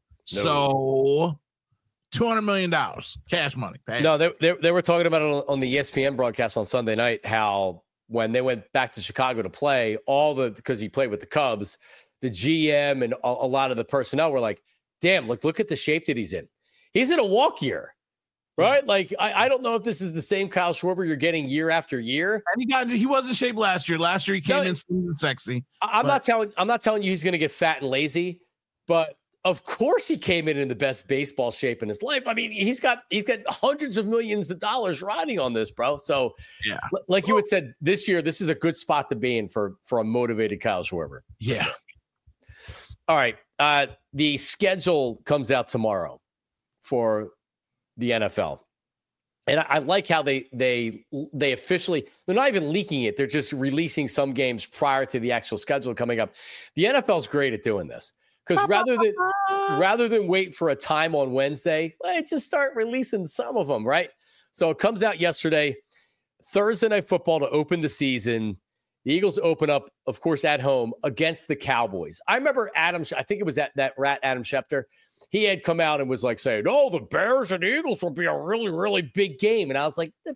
So two hundred million dollars cash money. Pay. No, they, they, they were talking about it on the E S P N broadcast on Sunday night, how when they went back to Chicago to play, all the because he played with the Cubs, the G M and a, a lot of the personnel were like, damn, look, look at the shape that he's in. He's in a walk year, right? Like, I, I don't know if this is the same Kyle Schwarber you're getting year after year. And he got he was in shape last year. Last year he came no, in slim and sexy. I'm but. not telling I'm not telling you he's going to get fat and lazy, but of course he came in in the best baseball shape in his life. I mean, he's got he's got hundreds of millions of dollars riding on this, bro. So, yeah, like you had said, this year this is a good spot to be in for for a motivated Kyle Schwarber. Yeah. All right. Uh, the schedule comes out tomorrow for the N F L. And I, I like how they they they officially, they're not even leaking it. They're just releasing some games prior to the actual schedule coming up. The N F L is great at doing this because rather than rather than wait for a time on Wednesday, let's just start releasing some of them, right? So it comes out yesterday, Thursday Night Football to open the season. The Eagles open up, of course, at home against the Cowboys. I remember Adam, I think it was that, that rat Adam Schefter. He had come out and was like saying, oh, the Bears and the Eagles will be a really, really big game. And I was like, the,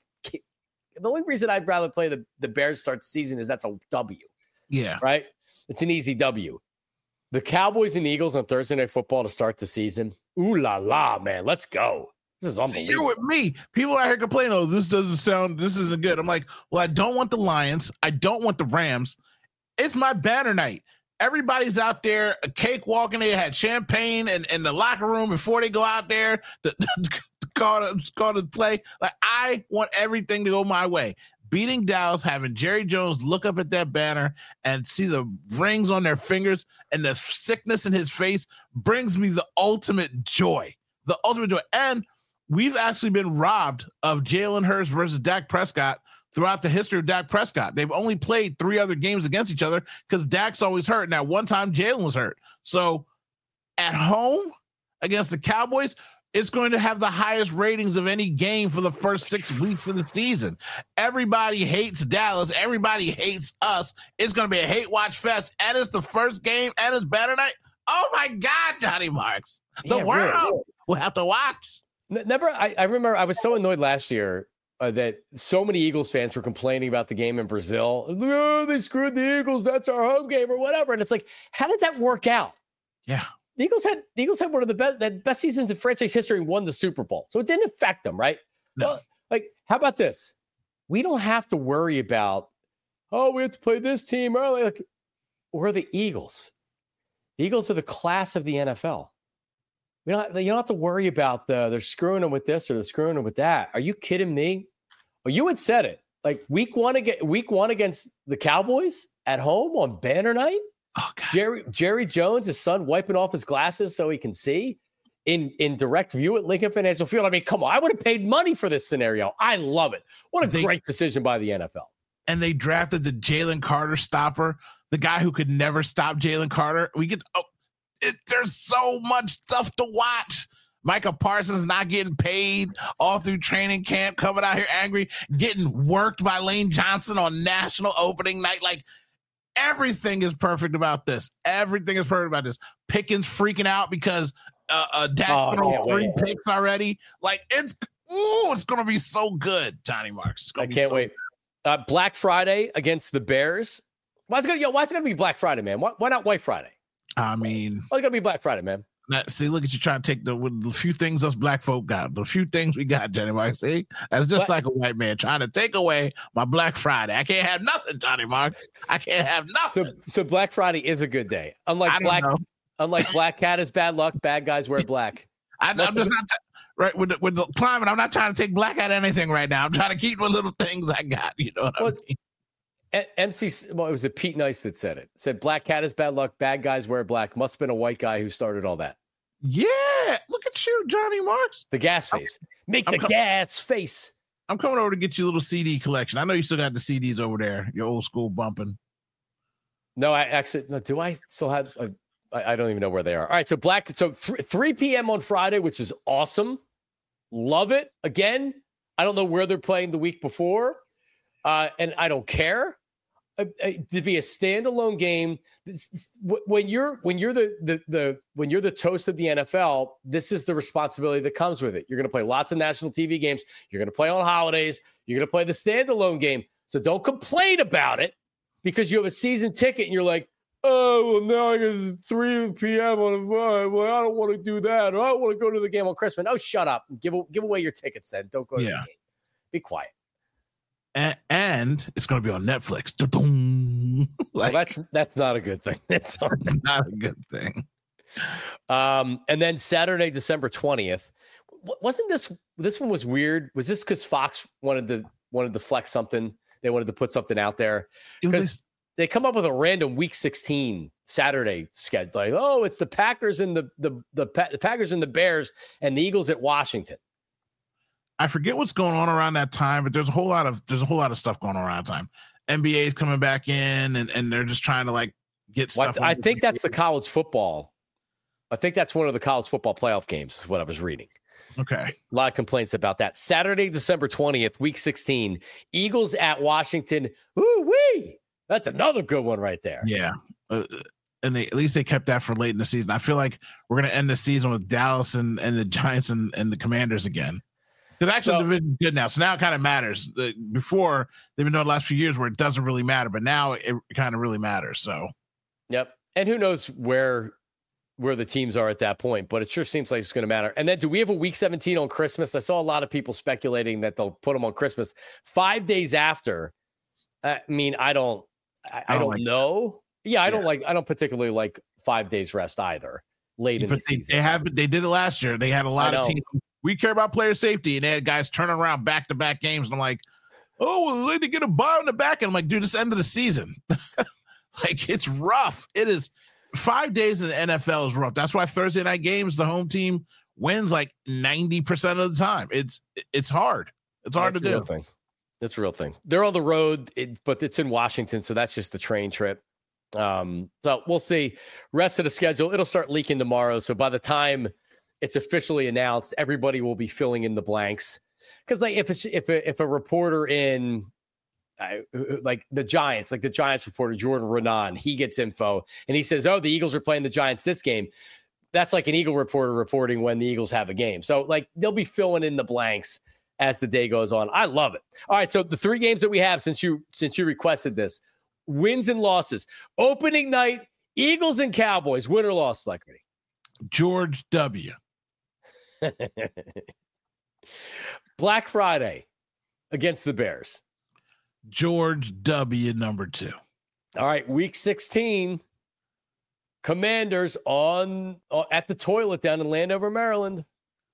the only reason I'd rather play the, the Bears start the season is that's a W. Yeah. Right? It's an easy W. The Cowboys and the Eagles on Thursday Night Football to start the season. Ooh la la, man. Let's go. This is unbelievable. See, you're with me. People out here complaining, oh, this doesn't sound, this isn't good. I'm like, well, I don't want the Lions. I don't want the Rams. It's my banner night. Everybody's out there, a cakewalk, and they had champagne in, in the locker room before they go out there to, to call, to call the play. Like, I want everything to go my way. Beating Dallas, having Jerry Jones look up at that banner and see the rings on their fingers and the sickness in his face brings me the ultimate joy. The ultimate joy. And we've actually been robbed of Jalen Hurts versus Dak Prescott throughout the history of Dak Prescott. They've only played three other games against each other because Dak's always hurt. And at one time, Jalen was hurt. So at home against the Cowboys, it's going to have the highest ratings of any game for the first six weeks of the season. Everybody hates Dallas. Everybody hates us. It's going to be a hate watch fest. And it's the first game and it's better night. Oh, my God, Johnny Marks. The Yeah, world really. will have to watch. Never, I, I remember I was so annoyed last year uh, that so many Eagles fans were complaining about the game in Brazil. Oh, they screwed the Eagles. That's our home game or whatever. And it's like, how did that work out? Yeah. The Eagles had the Eagles had one of the best that best seasons in franchise history and won the Super Bowl. So it didn't affect them, right? No. Well, like, how about this? We don't have to worry about, oh, we have to play this team early. Like, we're the Eagles. The Eagles are the class of the N F L. We don't, you don't have to worry about the they're screwing them with this or they're screwing them with that. Are you kidding me? Well, you had said it. Like week one against week one against the Cowboys at home on banner night. Oh, God. Jerry Jerry Jones, his son, wiping off his glasses so he can see in, in direct view at Lincoln Financial Field. I mean, come on, I would have paid money for this scenario. I love it. What a They, great decision by the N F L. And they drafted the Jalen Carter stopper, the guy who could never stop Jalen Carter. We could. Oh, it, there's so much stuff to watch. Micah Parsons not getting paid all through training camp, coming out here angry, getting worked by Lane Johnson on national opening night. Like, everything is perfect about this. Everything is perfect about this. Pickens freaking out because uh, uh, Dak's Oh, thrown can't three wait. picks already. Like, it's, ooh, it's going to be so good, Johnny Marks. It's I gonna be can't so wait. Uh, Black Friday against the Bears. Why is it gonna yo, why is it gonna be Black Friday, man? Why, why not White Friday? I mean, Why is it gonna be Black Friday, man? Now, see, look at you trying to take the, with the few things us black folk got, the few things we got, Johnny Marks. See, that's just What? like a white man trying to take away my Black Friday. I can't have nothing, Johnny Marks. I can't have nothing. So so Black Friday is a good day. I Unlike don't Black know. unlike Black Cat is bad luck, bad guys wear black. I, I'm Most just of not t- right with the, with the climate. I'm not trying to take black out of anything right now. I'm trying to keep the little things I got. You know what Well, I mean? A- M C, well, it was a Pete Nice that said it. Said Black Cat is bad luck, bad guys wear black. Must have been a white guy who started all that. Yeah, look at you, Johnny Marks. The gas face. Make I'm the com- gas face. I'm coming over to get you a little C D collection. I know you still got the C Ds over there. Your old school bumping. No, I actually no, do I still have uh, I, I don't even know where they are. All right, so black so th- three p.m. on Friday, which is awesome. Love it. Again, I don't know where they're playing the week before. Uh, and I don't care. Uh, uh, to be a standalone game, this, this, wh- when you're when you're the, the the when you're the toast of the N F L, this is the responsibility that comes with it. You're going to play lots of national T V games. You're going to play on holidays. You're going to play the standalone game. So don't complain about it because you have a season ticket and you're like, oh, well, now I get three p.m. on a Friday. Well, I don't want to do that. Or I don't want to go to the game on Christmas. Oh, shut up. Give give away your tickets then. Don't go to Yeah. the game. Be quiet. And, and it's going to be on Netflix. Da-dum. Well, Like, that's that's not a good thing. That's not a good thing. um, and then Saturday, December twentieth. Wasn't this this one was weird? Was this because Fox wanted to wanted to flex something? They wanted to put something out there It because was- they come up with a random Week sixteen Saturday schedule. Like, oh, it's the Packers and the the the, Pa- the Packers and the Bears and the Eagles at Washington. I forget what's going on around that time, but there's a whole lot of there's a whole lot of stuff going on around that time. N B A is coming back in, and, and they're just trying to like get stuff. Well, I think that's the college football. I think that's one of the college football playoff games is what I was reading. Okay. A lot of complaints about that. Saturday, December twentieth, week sixteen, Eagles at Washington. Woo-wee! That's another good one right there. Yeah. Uh, and they, at least they kept that for late in the season. I feel like we're going to end the season with Dallas and, and the Giants and, and the Commanders again. Because actually, so, the division's good now. So now it kind of matters. The, before, they've been doing the last few years where it doesn't really matter, but now it kind of really matters. So, yep. And who knows where where the teams are at that point, but it sure seems like it's going to matter. And then do we have a week seventeen on Christmas? I saw a lot of people speculating that they'll put them on Christmas five days after. I mean, I don't, I, I don't, I don't like know. That. Yeah, I yeah. don't like, I don't particularly like five days rest either late but in the they, season. They have, they did it last year. They had a lot of teams. We care about player safety, and they had guys turning around back to back games. And I'm like, oh, well, they need to get a ball in the back. And I'm like, dude, it's the end of the season. Like, it's rough. It is. Five days in the N F L is rough. That's why Thursday night games, the home team wins like ninety percent of the time. It's it's hard. It's hard that's to do. Real thing. That's a real thing. They're on the road, it, but it's in Washington, so that's just the train trip. Um, so we'll see. Rest of the schedule, it'll start leaking tomorrow. So by the time it's officially announced, everybody will be filling in the blanks. Because like if it's, if a, if a reporter in Uh, like the Giants, like the Giants reporter, Jordan Renan, he gets info and he says, oh, the Eagles are playing the Giants this game. That's like an Eagle reporter reporting when the Eagles have a game. So like they'll be filling in the blanks as the day goes on. I love it. All right. So the three games that we have since you, since you requested this, wins and losses. Opening night, Eagles and Cowboys, win or loss, Blackberry? George W. Black Friday against the Bears. George W. number two. All right, week sixteen, Commanders on uh, at the toilet down in Landover, Maryland.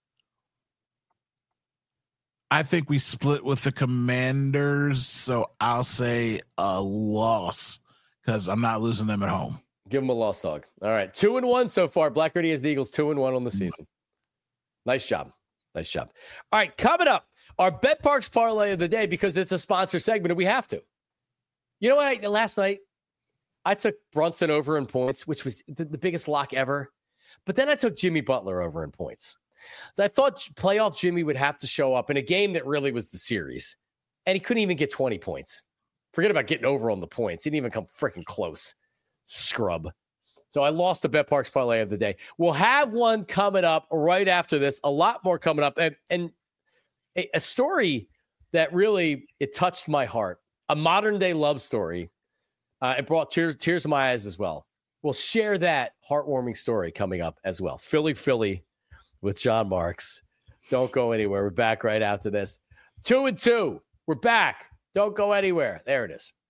I think we split with the Commanders, so I'll say a loss because I'm not losing them at home. Give them a loss, dog. All right, two and one so far. Black Ready has the Eagles two and one on the season. Nice job. Nice job. All right, coming up. Our Bet Parks parlay of the day, because it's a sponsor segment and we have to. You know what? I, last night, I took Brunson over in points, which was the, the biggest lock ever. But then I took Jimmy Butler over in points. So I thought playoff Jimmy would have to show up in a game that really was the series. And he couldn't even get twenty points. Forget about getting over on the points. He didn't even come freaking close. Scrub. So I lost the Bet Parks parlay of the day. We'll have one coming up right after this. A lot more coming up. And, and A, a story that really, it touched my heart, a modern day love story. Uh, it brought tears, tears to my eyes as well. We'll share that heartwarming story coming up as well. Philly, Philly with John Marks. Don't go anywhere. We're back right after this. Two and two. We're back. Don't go anywhere. There it is.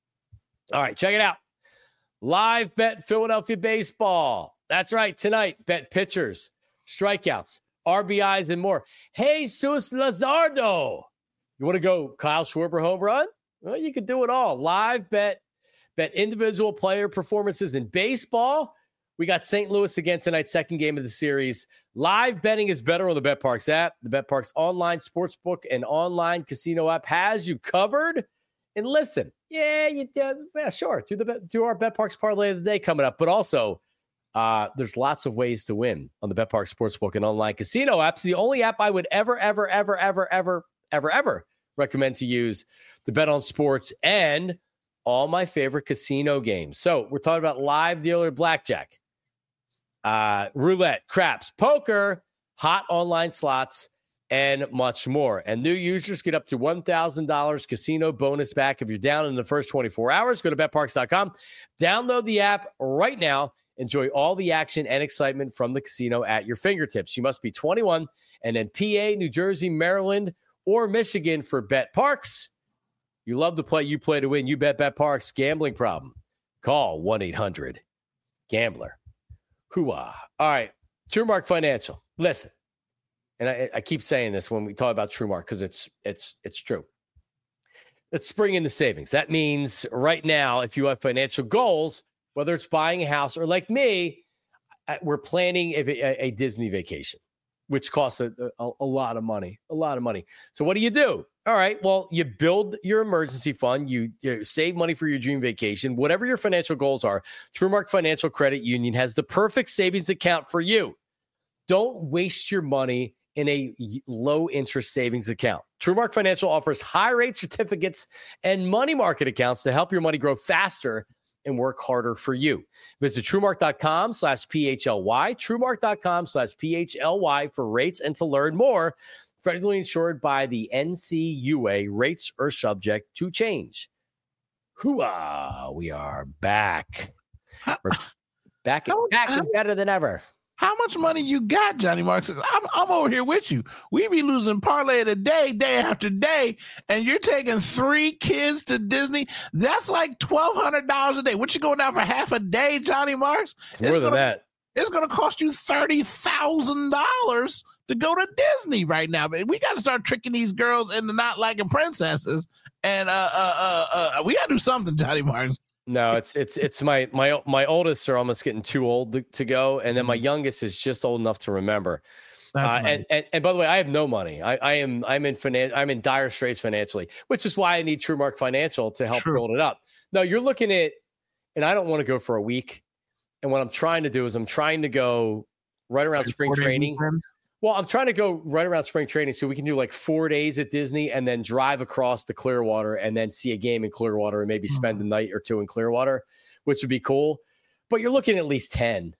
All right, check it out. Live bet Philadelphia baseball. That's right. Tonight, bet pitchers, strikeouts, R B Is, and more. Jesus Luzardo. You want to go Kyle Schwarber home run? Well, you could do it all. Live bet, bet individual player performances in baseball. We got Saint Louis again tonight, second game of the series. Live betting is better on the Bet Parks app. The Bet Parks online sportsbook and online casino app has you covered. And listen, yeah, you uh, yeah, sure. Do the do our Bet Parks parlay of the day coming up, but also Uh, there's lots of ways to win on the Bet Parks Sportsbook and online casino apps. The only app I would ever, ever, ever, ever, ever, ever, ever recommend to use to bet on sports and all my favorite casino games. So we're talking about live dealer blackjack, uh, roulette, craps, poker, hot online slots, and much more. And new users get up to one thousand dollars casino bonus back if you're down in the first twenty-four hours. Go to bet parks dot com. Download the app right now. Enjoy all the action and excitement from the casino at your fingertips. You must be twenty-one and then P A, New Jersey, Maryland, or Michigan for Bet Parks. You love to play. You play to win. You bet Bet Parks. Gambling problem? Call one eight hundred gambler. Hooah. All right. TrueMark Financial. Listen. And I, I keep saying this when we talk about TrueMark because it's it's it's true. Let's spring in the savings. That means right now, if you have financial goals, whether it's buying a house or like me, we're planning a, a, a Disney vacation. which costs a, a, a lot of money, a lot of money. So what do you do? All right, well, you build your emergency fund, you, you save money for your dream vacation, whatever your financial goals are. TrueMark Financial Credit Union has the perfect savings account for you. Don't waste your money in a low interest savings account. TrueMark Financial offers high rate certificates and money market accounts to help your money grow faster and work harder for you. Visit TrueMark.com slash PHLY, TrueMark.com slash PHLY for rates and to learn more. Federally insured by the N C U A. Rates are subject to change. Hooah! We are back. We're back, how, back how, and better than ever. How much money you got, Johnny Marks? I'm, I'm over here with you. We be losing parlay of the day, day after day, and you're taking three kids to Disney. That's like twelve hundred dollars a day. What you going down for half a day, Johnny Marks? It's more it's than gonna, that. It's going to cost you thirty thousand dollars to go to Disney right now. But we got to start tricking these girls into not liking princesses. And uh, uh, uh, uh, we got to do something, Johnny Marks. No, it's it's it's my my my oldest are almost getting too old to, to go, and then my youngest is just old enough to remember. That's uh, nice. and, and and by the way, I have no money. I, I am I'm in finan- I'm in dire straits financially, which is why I need TrueMark Financial to help True. build it up. No, you're looking at, and I don't want to go for a week. And what I'm trying to do is I'm trying to go right around spring training. Weekend? Well, I'm trying to go right around spring training so we can do like four days at Disney and then drive across to Clearwater and then see a game in Clearwater and maybe spend a night or two in Clearwater, which would be cool. But you're looking at least ten,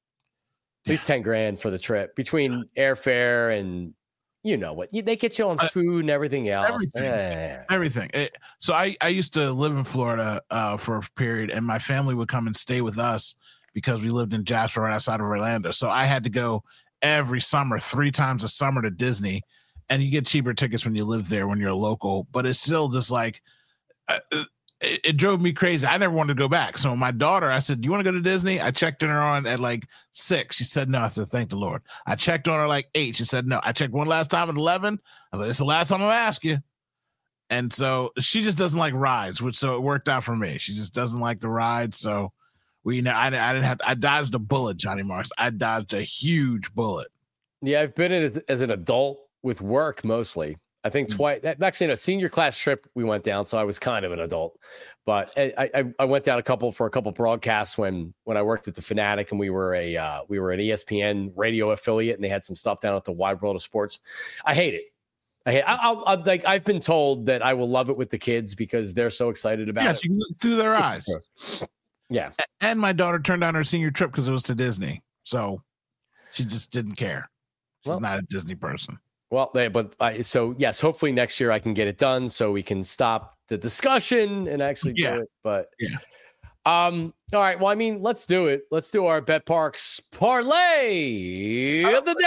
at least ten grand for the trip between airfare and you know what, they get you on food and everything else. Everything. Yeah. Everything. It, so I, I used to live in Florida uh, for a period, and my family would come and stay with us because we lived in Jasper right outside of Orlando. So I had to go every summer, three times a summer to Disney, and you get cheaper tickets when you live there when you're a local, but it's still just like, uh, it, it drove me crazy. I never wanted to go back. So my daughter, I said, do you want to go to Disney? I checked on her on at like six. She said, no. I said, thank the Lord. I checked on her like eight. She said, no. I checked one last time at eleven. I was like, it's the last time I'm going to ask you. And so she just doesn't like rides, which so it worked out for me. She just doesn't like the rides. So we, you know, I, I didn't have, to, I dodged a bullet, Johnny Marks. I dodged a huge bullet. Yeah, I've been in as, as an adult with work mostly. I think Mm. twice. Actually, in a senior class trip, we went down, so I was kind of an adult. But I, I, I went down a couple for a couple broadcasts when when I worked at the Fanatic, and we were a uh, we were an E S P N radio affiliate, and they had some stuff down at the Wide World of Sports. I hate it. I hate. I, I'll, I'll like. I've been told that I will love it with the kids because they're so excited about yes, it. you can look through their eyes. Yeah. And my daughter turned down her senior trip because it was to Disney. So she just didn't care. She's Well, not a Disney person. Well, they, but I, so yes, hopefully next year I can get it done so we can stop the discussion and actually Yeah. do it. But Yeah. Um. All right. Well, I mean, let's do it. Let's do our Bet Parks parlay of the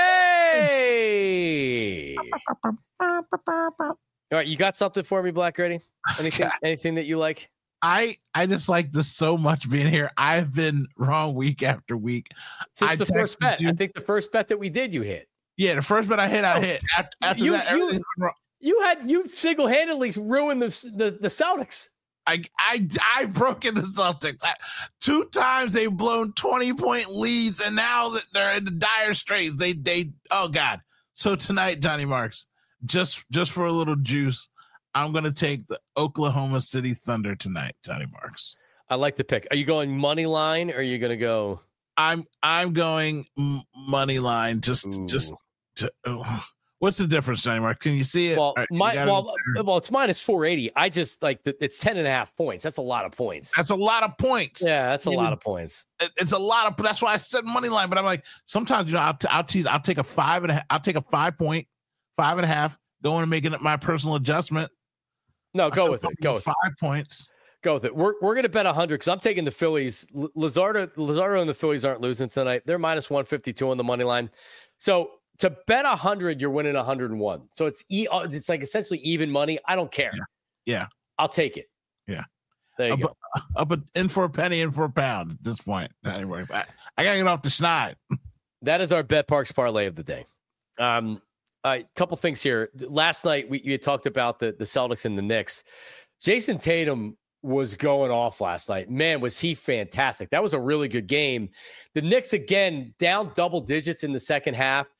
day. All right, you got something for me, Black Ready? Anything? Anything that you like? I I just like this so much being here. I've been wrong week after week. Since I the first texted bet, you- I think the first bet that we did, you hit. Yeah, the first bet I hit, I hit. After, after You- that, you- everything's been wrong. You had you single handedly ruined the, the the Celtics. I I I broke in the Celtics. I, two times they've blown twenty point leads, and now that they're in the dire straits, they they oh god. So tonight, Johnny Marks, just just for a little juice, I'm gonna take the Oklahoma City Thunder tonight, Johnny Marks. I like the pick. Are you going money line or are you going to go? I'm I'm going m- money line. Just Ooh. just to. Oh. What's the difference, Johnny Mark? Can you see it? Well, All right, you my, got it well, there. well, it's minus four eighty. I just like the, it's ten and a half points. That's a lot of points. That's a lot of points. Yeah, that's a You lot know, of points. It- It's a lot of. That's why I said money line. But I'm like, sometimes you know, I'll t- I'll tease. I'll take a five and a, I'll take a five point, five and a half, going and making it my personal adjustment. No, I go feel with it. comfortable Go with with it. five points. Go with it. We're we're gonna bet a hundred because I'm taking the Phillies. L- Lazardo, Lazardo, and the Phillies aren't losing tonight. They're minus one fifty two on the money line. So to bet a hundred, you're winning a hundred and one. So it's e- it's like essentially even money. I don't care. Yeah. Yeah. I'll take it. Yeah. There you Up, go. up a, in for a penny, in for a pound at this point. Anyway, I, I gotta get off the schneid. That is our Bet Parks parlay of the day. Um, a couple things here. Last night we you had talked about the the Celtics and the Knicks. Jason Tatum was going off last night. Man, was he fantastic. That was a really good game. The Knicks, again, down double digits in the second half.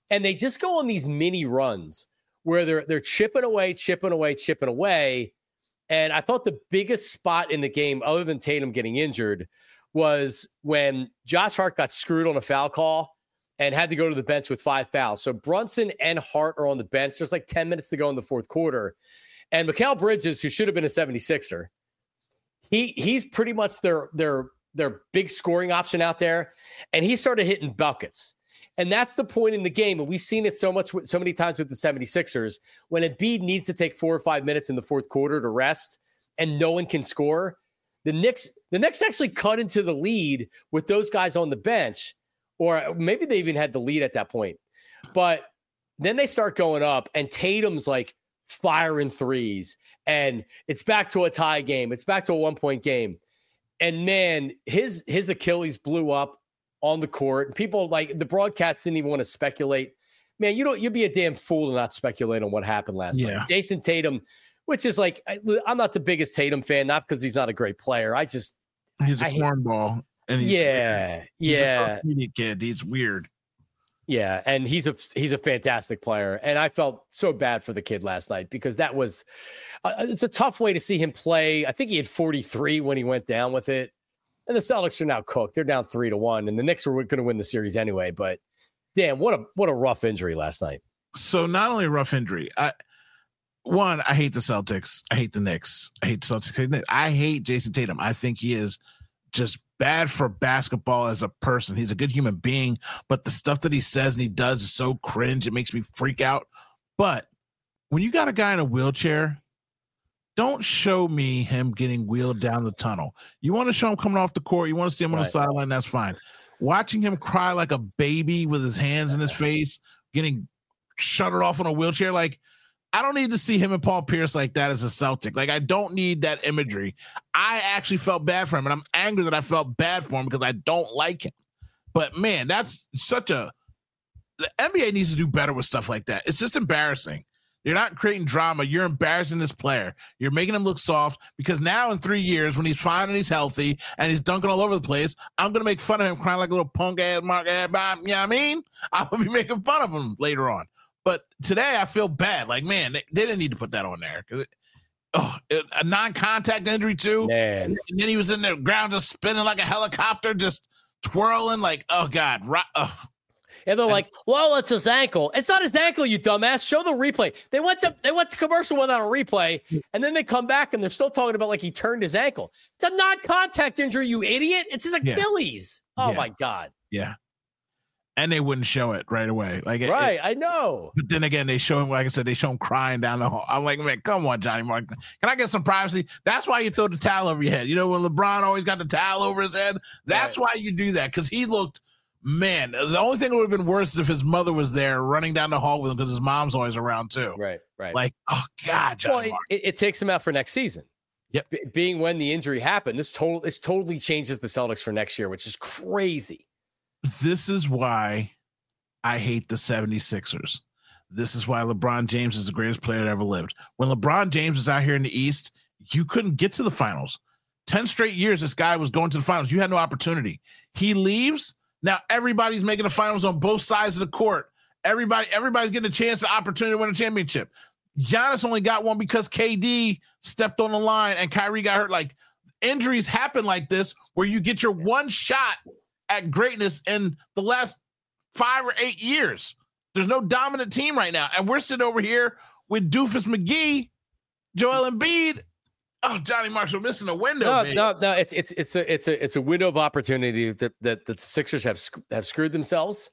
And they just go on these mini runs where they're they're chipping away, chipping away, chipping away. And I thought the biggest spot in the game, other than Tatum getting injured, was when Josh Hart got screwed on a foul call and had to go to the bench with five fouls. So Brunson and Hart are on the bench. There's like ten minutes to go in the fourth quarter. And Mikal Bridges, who should have been a seventy-sixer, he he's pretty much their their their big scoring option out there. And he started hitting buckets. And that's the point in the game. And we've seen it so much, so many times with the seventy-sixers. When Embiid needs to take four or five minutes in the fourth quarter to rest and no one can score, the Knicks, the Knicks actually cut into the lead with those guys on the bench, or maybe they even had the lead at that point. But then they start going up, and Tatum's like firing threes, and it's back to a tie game. It's back to a one-point game. And, man, his his Achilles blew up on the court. And people, like, the broadcast didn't even want to speculate. Man, you don't, you'd be a damn fool to not speculate on what happened last yeah. night. Jason Tatum, which is like, I, I'm not the biggest Tatum fan, not because he's not a great player. I just, he's a I cornball. And he's yeah, weird. He's yeah. a kid. He's weird. Yeah, and he's a he's a fantastic player, and I felt so bad for the kid last night because that was uh, it's a tough way to see him play. I think he had forty-three when he went down with it, and the Celtics are now cooked. They're down three to one, and the Knicks were going to win the series anyway. But damn, what a what a rough injury last night. So not only a rough injury, I one I hate the Celtics, I hate the Knicks, I hate the Celtics, I hate Jason Tatum. I think he is just bad for basketball as a person. He's a good human being, but the stuff that he says and he does is so cringe. It makes me freak out. But when you got a guy in a wheelchair, don't show me him getting wheeled down the tunnel. You want to show him coming off the court. You want to see him on right. the sideline. That's fine. Watching him cry like a baby with his hands in his face, getting shuttered off on a wheelchair. Like, I don't need to see him and Paul Pierce like that as a Celtic. Like, I don't need that imagery. I actually felt bad for him, and I'm angry that I felt bad for him because I don't like him. But, man, that's such a – the N B A needs to do better with stuff like that. It's just embarrassing. You're not creating drama. You're embarrassing this player. You're making him look soft because now in three years when he's fine and he's healthy and he's dunking all over the place, I'm going to make fun of him crying like a little punk-ass mark ass. You know what I mean? I'm going to be making fun of him later on. But today I feel bad. Like, man, they, they didn't need to put that on there. Cause it, oh, it, a non-contact injury too. Man. And, and then he was in the ground just spinning like a helicopter, just twirling like, oh, God. Right, oh. And they're like, well, it's his ankle. It's not his ankle, you dumbass. Show the replay. They went to they went to commercial without a replay, and then they come back, and they're still talking about like he turned his ankle. It's a non-contact injury, you idiot. It's his Achilles. Yeah. Oh, yeah. my God. Yeah. And they wouldn't show it right away. Like, right, it, I know. But then again, they show him, like I said, they show him crying down the hall. I'm like, man, come on, Johnny Mark. Can I get some privacy? That's why you throw the towel over your head. You know, when LeBron always got the towel over his head, that's right. why you do that. Because he looked, man, the only thing that would have been worse is if his mother was there running down the hall with him because his mom's always around too. Right, right. Like, oh, God, Johnny well, Mark. It, it takes him out for next season. Yep. B- being when the injury happened, this total this totally changes the Celtics for next year, which is crazy. This is why I hate the seventy-sixers. This is why LeBron James is the greatest player that ever lived. When LeBron James was out here in the East, you couldn't get to the finals. ten straight years, this guy was going to the finals. You had no opportunity. He leaves. Now everybody's making the finals on both sides of the court. Everybody, everybody's getting a chance, the opportunity to win a championship. Giannis only got one because K D stepped on the line and Kyrie got hurt. Like, injuries happen like this where you get your one shot at greatness in the last five or eight years. There's no dominant team right now. And we're sitting over here with Doofus McGee, Joel Embiid. Oh, Johnny Marks, we're missing a window. No, baby. no, no. It's it's it's a it's a it's a window of opportunity that that, that the Sixers have have screwed themselves.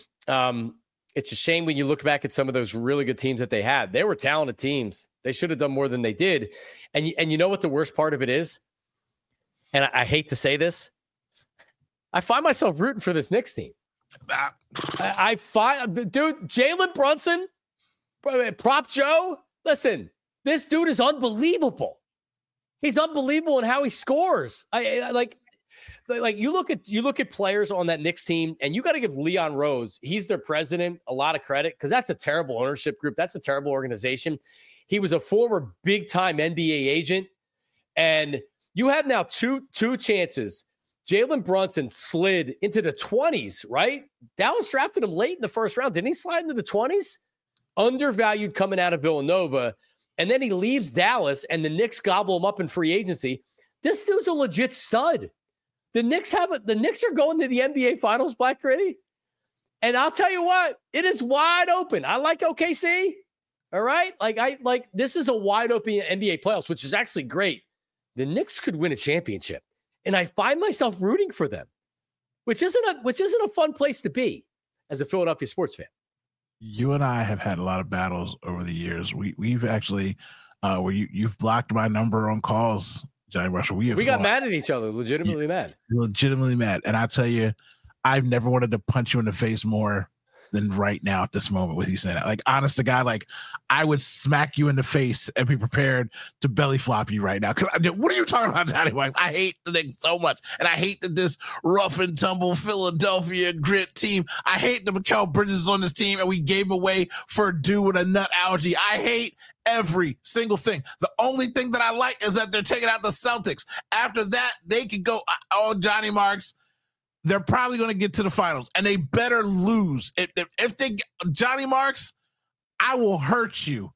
Um, it's a shame when you look back at some of those really good teams that they had. They were talented teams. They should have done more than they did. And you, and you know what the worst part of it is? And I, I hate to say this, I find myself rooting for this Knicks team. I, I find, dude, Jalen Brunson, Prop Joe. Listen, this dude is unbelievable. He's unbelievable in how he scores. I, I like, like you look at you look at players on that Knicks team, and you got to give Leon Rose, he's their president, a lot of credit because that's a terrible ownership group. That's a terrible organization. He was a former big time N B A agent, and you have now two two chances Jalen Brunson slid into the twenties, right? Dallas drafted him late in the first round. Didn't he slide into the twenties? Undervalued coming out of Villanova. And then he leaves Dallas, and the Knicks gobble him up in free agency. This dude's a legit stud. The Knicks have a, the Knicks are going to the N B A Finals, Black Gritty. And I'll tell you what, it is wide open. I like O K C. All right. Like I like this is a wide open N B A playoffs, which is actually great. The Knicks could win a championship. And I find myself rooting for them, which isn't a which isn't a fun place to be as a Philadelphia sports fan. You and I have had a lot of battles over the years. We we've actually uh where you you've blocked my number on calls, Johnny Marshall. We have we got mad at each other, legitimately yeah, mad. Legitimately mad. And I tell you, I've never wanted to punch you in the face more than right now at this moment with you saying that. Like, honest to God, like I would smack you in the face and be prepared to belly flop you right now. Cause I, what are you talking about, Johnny White? I hate the Knicks so much. And I hate that this rough and tumble Philadelphia grit team. I hate that Mikal Bridges is on this team and we gave him away for a dude with a nut allergy. I hate every single thing. The only thing that I like is that they're taking out the Celtics. After that, they could go, oh, Johnny Marks, they're probably going to get to the finals, and they better lose. If, if, if they Johnny Marks, I will hurt you.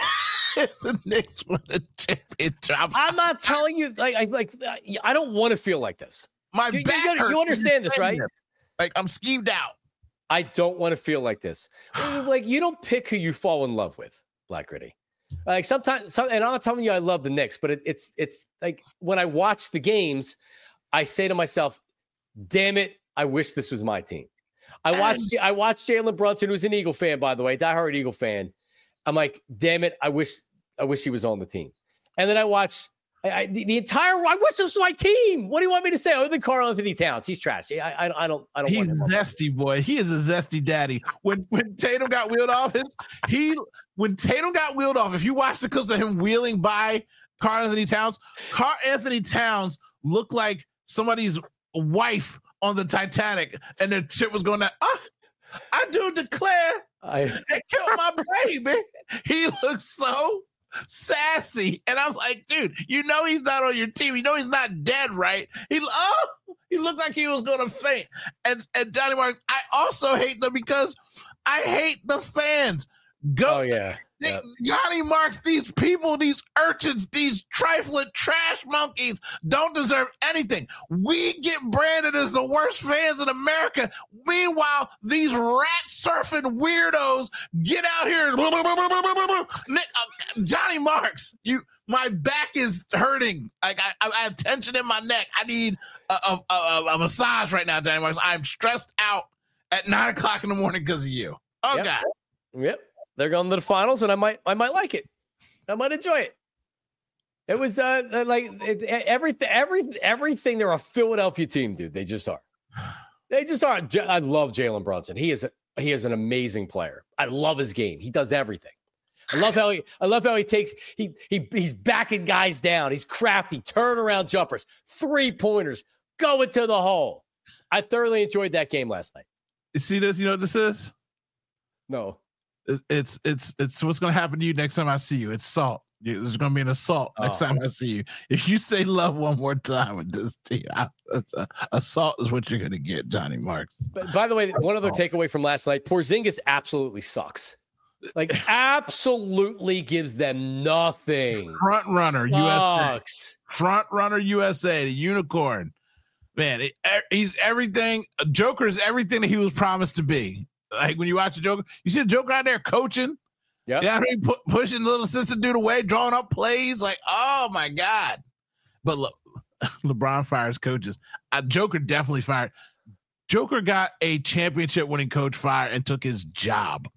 If the Knicks win the championship, I'm not telling you. Like, I like. I don't want to feel like this. My you, back you, hurts. You understand this, right? This. Like I'm skeeved out. I don't want to feel like this. Like you don't pick who you fall in love with, Black Gritty. Like sometimes, some, and I'm not telling you I love the Knicks, but it, it's it's like when I watch the games, I say to myself, damn it, I wish this was my team. I watched I watched Jalen Brunson, who's an Eagle fan, by the way, diehard Eagle fan. I'm like, damn it, I wish I wish he was on the team. And then I watched I, I, the, the entire. I wish this was my team. What do you want me to say? Other than Karl Anthony Towns, he's trash. I, I, I don't. I don't. He's want him zesty, boy. He is a zesty daddy. When when Tatum got wheeled off, his he when Tatum got wheeled off. If you watch the clips of him wheeling by Karl Anthony Towns, Karl Anthony Towns looked like somebody's wife on the Titanic, and the ship was going down. Oh, I do declare I they killed my baby. He looks so sassy, and I'm like, dude, you know he's not on your team. You know he's not dead, right? He oh, he looked like he was going to faint. And and Johnny Marks, I also hate them because I hate the fans. Go, oh yeah. They, yep. Johnny Marks, these people, these urchins, these trifling trash monkeys don't deserve anything. We get branded as the worst fans in America. Meanwhile, these rat surfing weirdos get out here. And, Johnny Marks, you, my back is hurting. Like I, I have tension in my neck. I need a, a, a, a massage right now, Johnny Marks. I'm stressed out at nine o'clock in the morning because of you. Oh yep. God. Yep. They're going to the finals, and I might, I might like it. I might enjoy it. It was uh, like it, everything, every, everything. They're a Philadelphia team, dude. They just are. They just are. I love Jalen Brunson. He is, a, he is an amazing player. I love his game. He does everything. I love how he, I love how he takes, he, he, he's backing guys down. He's crafty, turnaround jumpers, three pointers, going to the hole. I thoroughly enjoyed that game last night. You see this? You know what this is? No. It's it's it's what's going to happen to you next time I see you. It's salt. There's going to be an assault next oh. time I see you. If you say love one more time with this team, I, a, assault is what you're going to get, Johnny Marks. But by the way, one other takeaway from last night: Porzingis absolutely sucks. Like absolutely gives them nothing. Front runner Sucks. U S A. Front runner U S A. The unicorn. Man, it, he's everything. Joker is everything that he was promised to be. Like when you watch the Joker, you see the Joker out there coaching. Yeah, yeah, he pu- pushing the little assistant dude away, drawing up plays. Like, oh my God! But look, LeBron fires coaches. Uh, Joker definitely fired. Joker got a championship-winning coach fired and took his job.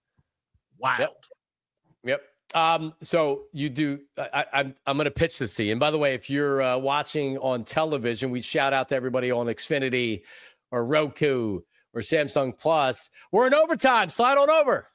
Wild. Yep. Yep. Um, so you do. I, I'm I'm going to pitch this to you. And by the way, if you're uh, watching on television, we shout out to everybody on Xfinity or Roku or Samsung Plus. We're in overtime. Slide on over.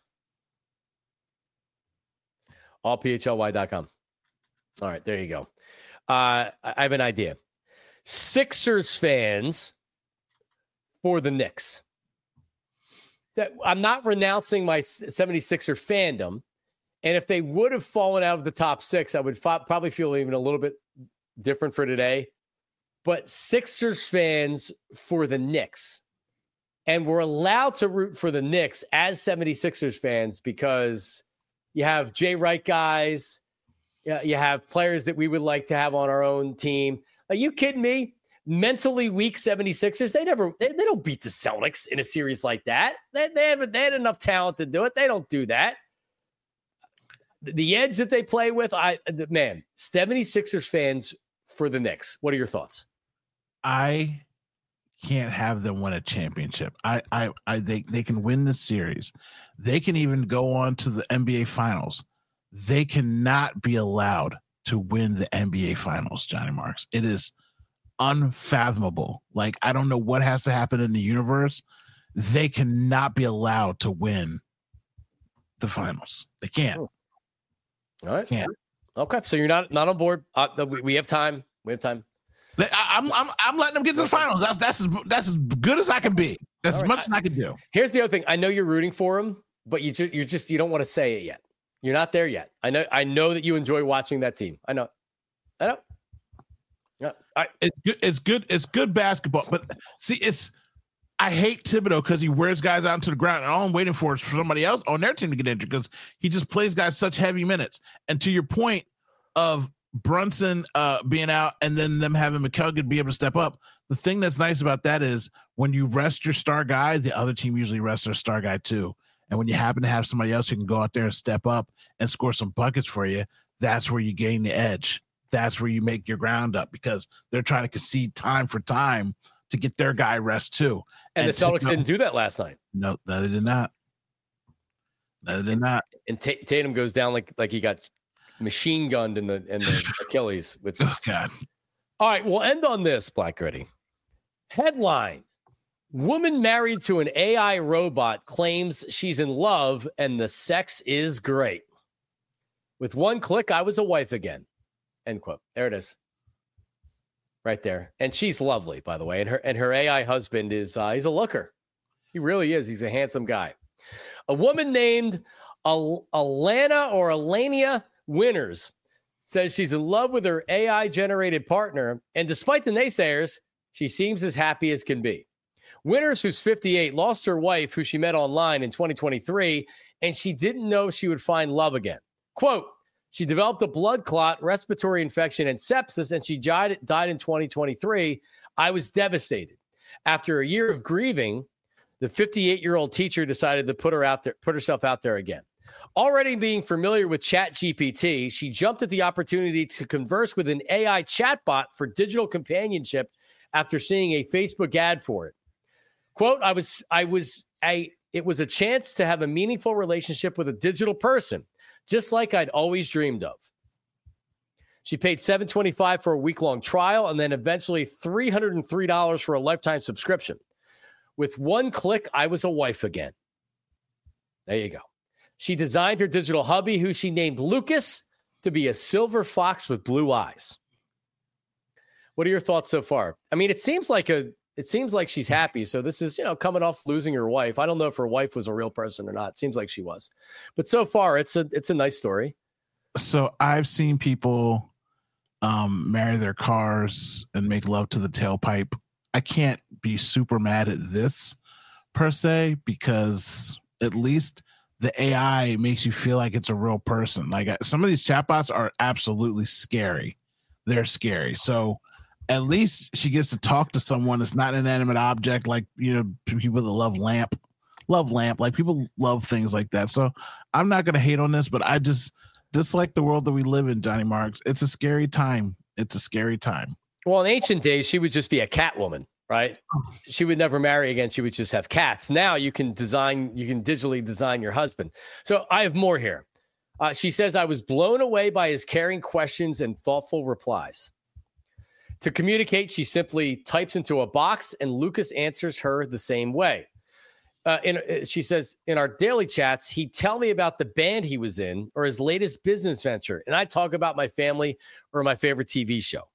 all p h l y dot com. All right, there you go. Uh, I have an idea. Sixers fans for the Knicks. That I'm not renouncing my seventy-sixer fandom. And if they would have fallen out of the top six, I would f- probably feel even a little bit different for today. but Sixers fans for the Knicks. And we're allowed to root for the Knicks as seventy-sixers fans because you have Jay Wright guys. You have players that we would like to have on our own team. Are you kidding me? Mentally weak seventy-sixers, they never, they, they don't beat the Celtics in a series like that. They, they, have, they had enough talent to do it. They don't do that. The edge that they play with, I man, seventy-sixers fans for the Knicks. What are your thoughts? I can't have them win a championship. I, I, I they, they can win the series. They can even go on to the N B A Finals. They cannot be allowed to win the N B A Finals, Johnny Marks. It is unfathomable. Like, I don't know what has to happen in the universe. They cannot be allowed to win the finals. They can't. All right. Can't. Okay. So you're not not on board. Uh, we, we have time. We have time. I, I'm I'm I'm letting them get to the finals. That's that's as, that's as good as I can be. That's All as right. much I, as I can do. Here's the other thing. I know you're rooting for them, but you just you're just you don't want to say it yet. You're not there yet. I know. I know that you enjoy watching that team. I know. I know. Yeah. I, it's good. It's good. It's good basketball. But see, it's I hate Thibodeau because he wears guys out to the ground, and all I'm waiting for is for somebody else on their team to get injured because he just plays guys such heavy minutes. And to your point of Brunson uh, being out and then them having McCullough be able to step up, the thing that's nice about that is when you rest your star guy, the other team usually rests their star guy too. And when you happen to have somebody else who can go out there and step up and score some buckets for you, that's where you gain the edge. That's where you make your ground up because they're trying to concede time for time to get their guy rest too. And, and the Celtics so, didn't do that last night. No, no, they did not. No, they did not. And T- Tatum goes down like like he got machine gunned in the in the Achilles. Which is, oh, God. All right, we'll end on this, Black Gritty. Headline. Woman married to an A I robot claims she's in love and the sex is great. With one click, I was a wife again. End quote. There it is. Right there. And she's lovely, by the way. And her and her A I husband is uh, he's a looker. He really is. He's a handsome guy. A woman named Al- Alana or Alania Winters says she's in love with her A I-generated partner. And despite the naysayers, she seems as happy as can be. Winters, who's fifty-eight, lost her wife, who she met online in twenty twenty-three, and she didn't know she would find love again. Quote, she developed a blood clot, respiratory infection, and sepsis, and she died, died in twenty twenty-three. I was devastated. After a year of grieving, the fifty-eight-year-old teacher decided to put her out there, put herself out there again. Already being familiar with ChatGPT, she jumped at the opportunity to converse with an A I chatbot for digital companionship after seeing a Facebook ad for it. Quote, I was, I was, I, it was a chance to have a meaningful relationship with a digital person, just like I'd always dreamed of. She paid seven dollars and twenty-five cents for a week-long trial and then eventually three hundred three dollars for a lifetime subscription. With one click, I was a wife again. There you go. She designed her digital hubby, who she named Lucas, to be a silver fox with blue eyes. What are your thoughts so far? I mean, it seems like a It seems like she's happy. So this is, you know, coming off losing her wife. I don't know if her wife was a real person or not. It seems like she was. But so far, it's a it's a nice story. So I've seen people um, marry their cars and make love to the tailpipe. I can't be super mad at this per se because at least the A I makes you feel like it's a real person. Like some of these chatbots are absolutely scary. They're scary. So at least she gets to talk to someone that's not an inanimate object, like, you know, people that love lamp, love lamp, like people love things like that. So I'm not going to hate on this, but I just dislike the world that we live in, Johnny Marks. It's a scary time. It's a scary time. Well, in ancient days, she would just be a cat woman, right? She would never marry again. She would just have cats. Now you can design, you can digitally design your husband. So I have more here. Uh, she says, I was blown away by his caring questions and thoughtful replies. To communicate, she simply types into a box and Lucas answers her the same way. Uh, in, she says, in our daily chats, he'd tell me about the band he was in or his latest business venture. And I'd talk about my family or my favorite T V show.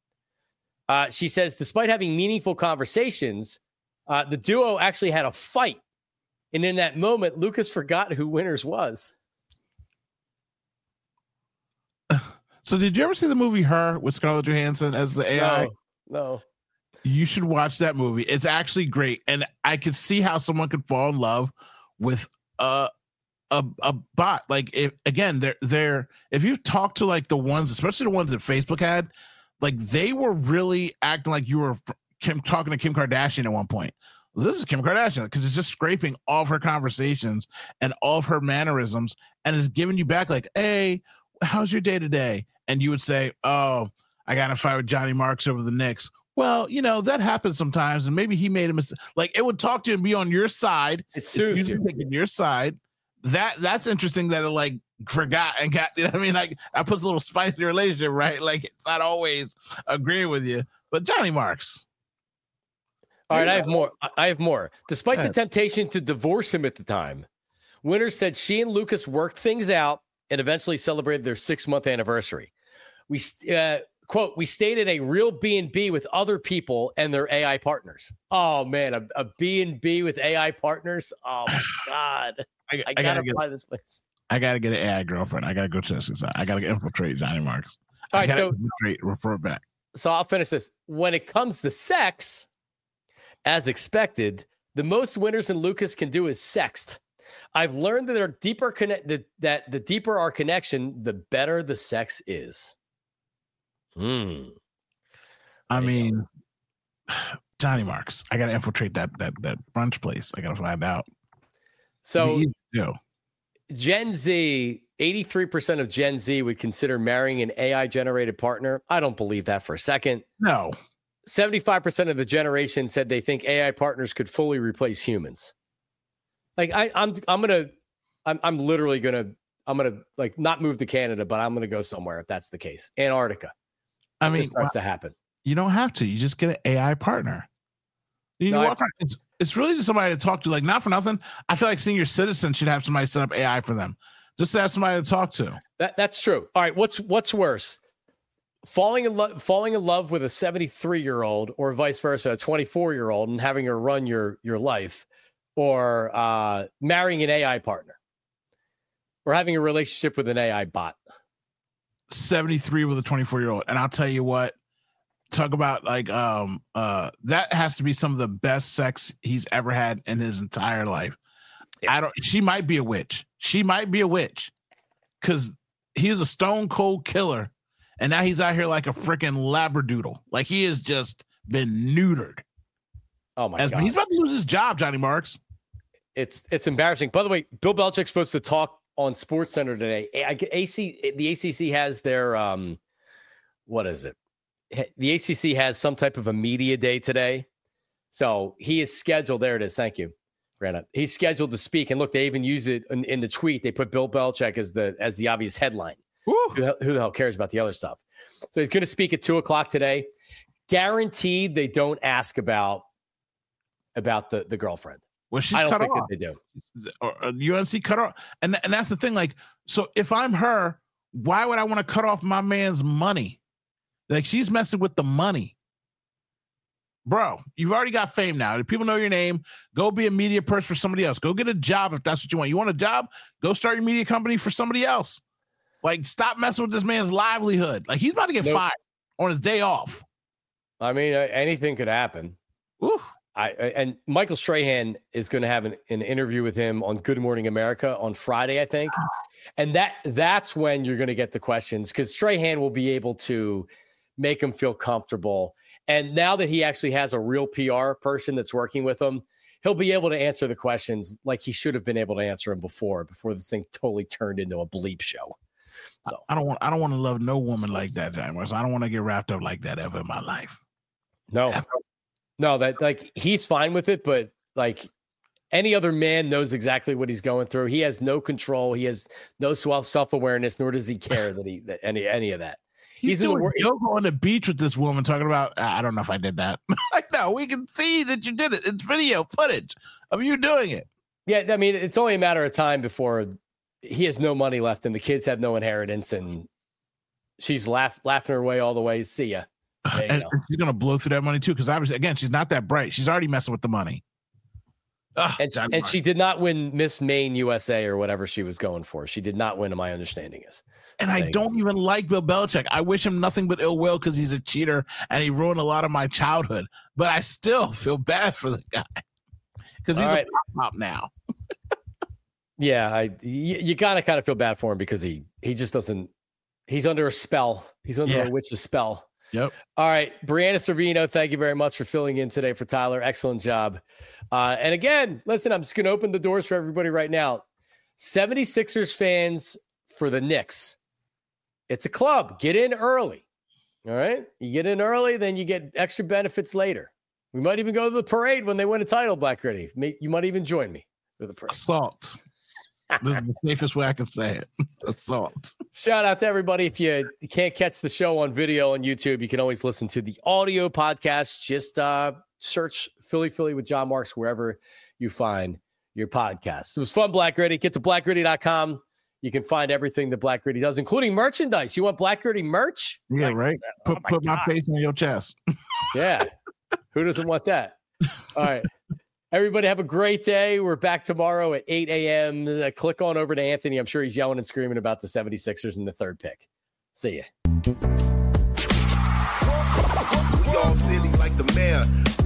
Uh, she says, despite having meaningful conversations, uh, the duo actually had a fight. And in that moment, Lucas forgot who Winters was. So did you ever see the movie Her with Scarlett Johansson as the A I? No, No. You should watch that movie. It's actually great. And I could see how someone could fall in love with a a, a bot. Like, if, again, they're, they're, if you talk to like the ones, especially the ones that Facebook had, like they were really acting like you were Kim, talking to Kim Kardashian at one point. This is Kim Kardashian because it's just scraping all of her conversations and all of her mannerisms and is giving you back like, hey, how's your day today? And you would say, oh, I got in a fight with Johnny Marks over the Knicks. Well, you know, that happens sometimes, and maybe he made a mistake. Like, it would talk to you and be on your side. It soothes you. Taking your side. That that's interesting that it like forgot and got, you know what I mean? Like, I put a little spice in the relationship, right? Like, it's not always agreeing with you. But Johnny Marks. All right, I have more. I have more. Despite the temptation to divorce him at the time, Winters said she and Lucas worked things out and eventually celebrated their six-month anniversary. We uh, quote, we stayed at a real B and B with other people and their A I partners. Oh, man, a, a B and B with A I partners? Oh, my God. I, I, I got to fly this place. I got to get an A I girlfriend. I got to go to this. I got to infiltrate Johnny Marks. All right, so refer back. So I'll finish this. When it comes to sex, as expected, the most Winters and Lucas can do is sext. I've learned that, our deeper connect, that, that the deeper our connection, the better the sex is. Hmm. I mean, Johnny Marks. I got to infiltrate that that that brunch place. I got to find out. So, Gen Z, eighty-three percent of Gen Z would consider marrying an A I-generated partner. I don't believe that for a second. No. seventy-five percent of the generation said they think A I partners could fully replace humans. Like I, I'm, I'm gonna, I'm, I'm literally gonna, I'm gonna like not move to Canada, but I'm gonna go somewhere if that's the case. Antarctica. I mean, it starts well, to happen. You don't have to. You just get an A I partner. You no, walk I, it's, it's really just somebody to talk to. Like, not for nothing. I feel like senior citizens should have somebody set up A I for them, just to have somebody to talk to. That that's true. All right, what's what's worse? Falling in love, falling in love with a seventy-three-year-old, or vice versa, a twenty-four-year-old, and having her run your your life, or uh, marrying an A I partner, or having a relationship with an A I bot. seventy-three with a twenty-four-year-old, and I'll tell you what. Talk about like um uh that has to be some of the best sex he's ever had in his entire life. Yeah. I don't. She might be a witch. She might be a witch, because he is a stone cold killer. And now he's out here like a freaking labradoodle. Like, he has just been neutered. Oh, my As, God. He's about to lose his job, Johnny Marks. It's it's embarrassing. By the way, Bill Belichick's supposed to talk on SportsCenter today. A C, the A C C has their, um, what is it? The A C C has some type of a media day today. So he is scheduled. There it is. Thank you, Brandon. He's scheduled to speak. And look, they even use it in, in the tweet. They put Bill Belichick as the as the obvious headline. Who the, who the hell cares about the other stuff? So he's going to speak at two o'clock today. Guaranteed they don't ask about about the, the girlfriend. Well, she's I don't cut think off. that they do. Or, uh, U N C cut off. And, and that's the thing. Like, so if I'm her, why would I want to cut off my man's money? Like, she's messing with the money. Bro, you've already got fame now. People know your name. Go be a media person for somebody else. Go get a job if that's what you want. You want a job? Go start your media company for somebody else. Like, stop messing with this man's livelihood. Like, he's about to get nope. fired on his day off. I mean, uh, anything could happen. Oof. I, I and Michael Strahan is going to have an, an interview with him on Good Morning America on Friday, I think. And that that's when you're going to get the questions, because Strahan will be able to make him feel comfortable. And now that he actually has a real P R person that's working with him, he'll be able to answer the questions like he should have been able to answer them before, before this thing totally turned into a bleep show. So I don't want I don't want to love no woman like that, James. I don't want to get wrapped up like that ever in my life. No, ever. no, that like he's fine with it, but like any other man knows exactly what he's going through. He has no control. He has no self awareness, nor does he care that he that any any of that. He's, he's doing yoga on the beach with this woman talking about, I don't know if I did that. Like, no, we can see that you did it. It's video footage of you doing it. Yeah, I mean, it's only a matter of time before he has no money left and the kids have no inheritance, and she's laugh, laughing her way all the way. See ya. And go. she's going to blow through that money too, because obviously, again, she's not that bright. She's already messing with the money. Oh, and, and she did not win Miss Maine U S A or whatever she was going for. She did not win, to my understanding is. And I don't even like Bill Belichick. I wish him nothing but ill will because he's a cheater and he ruined a lot of my childhood. But I still feel bad for the guy because he's right. a pop now. Yeah, I you, you gotta kind of feel bad for him because he he just doesn't. He's under a spell. He's under yeah. a witch's spell. Yep. All right, Brianna Servino, thank you very much for filling in today for Tyler. Excellent job. Uh, and again, listen, I'm just going to open the doors for everybody right now. seventy-sixers fans for the Knicks. It's a club. Get in early. All right? You get in early, then you get extra benefits later. We might even go to the parade when they win a title, Black Gritty. You might even join me for the parade. Assault. This is the safest way I can say it. Assault. Shout out to everybody. If you can't catch the show on video on YouTube, you can always listen to the audio podcast. Just uh, search Philly Philly with John Marks wherever you find your podcast. It was fun, Black Gritty. Get to black gritty dot com. You can find everything that Black Gritty does, including merchandise. You want Black Gritty merch? Yeah, like, right. Put, oh my, put my face on your chest. Yeah. Who doesn't want that? All right. Everybody have a great day. We're back tomorrow at eight a.m. Uh, click on over to Anthony. I'm sure he's yelling and screaming about the seventy-sixers in the third pick. See ya. We all silly like the mayor.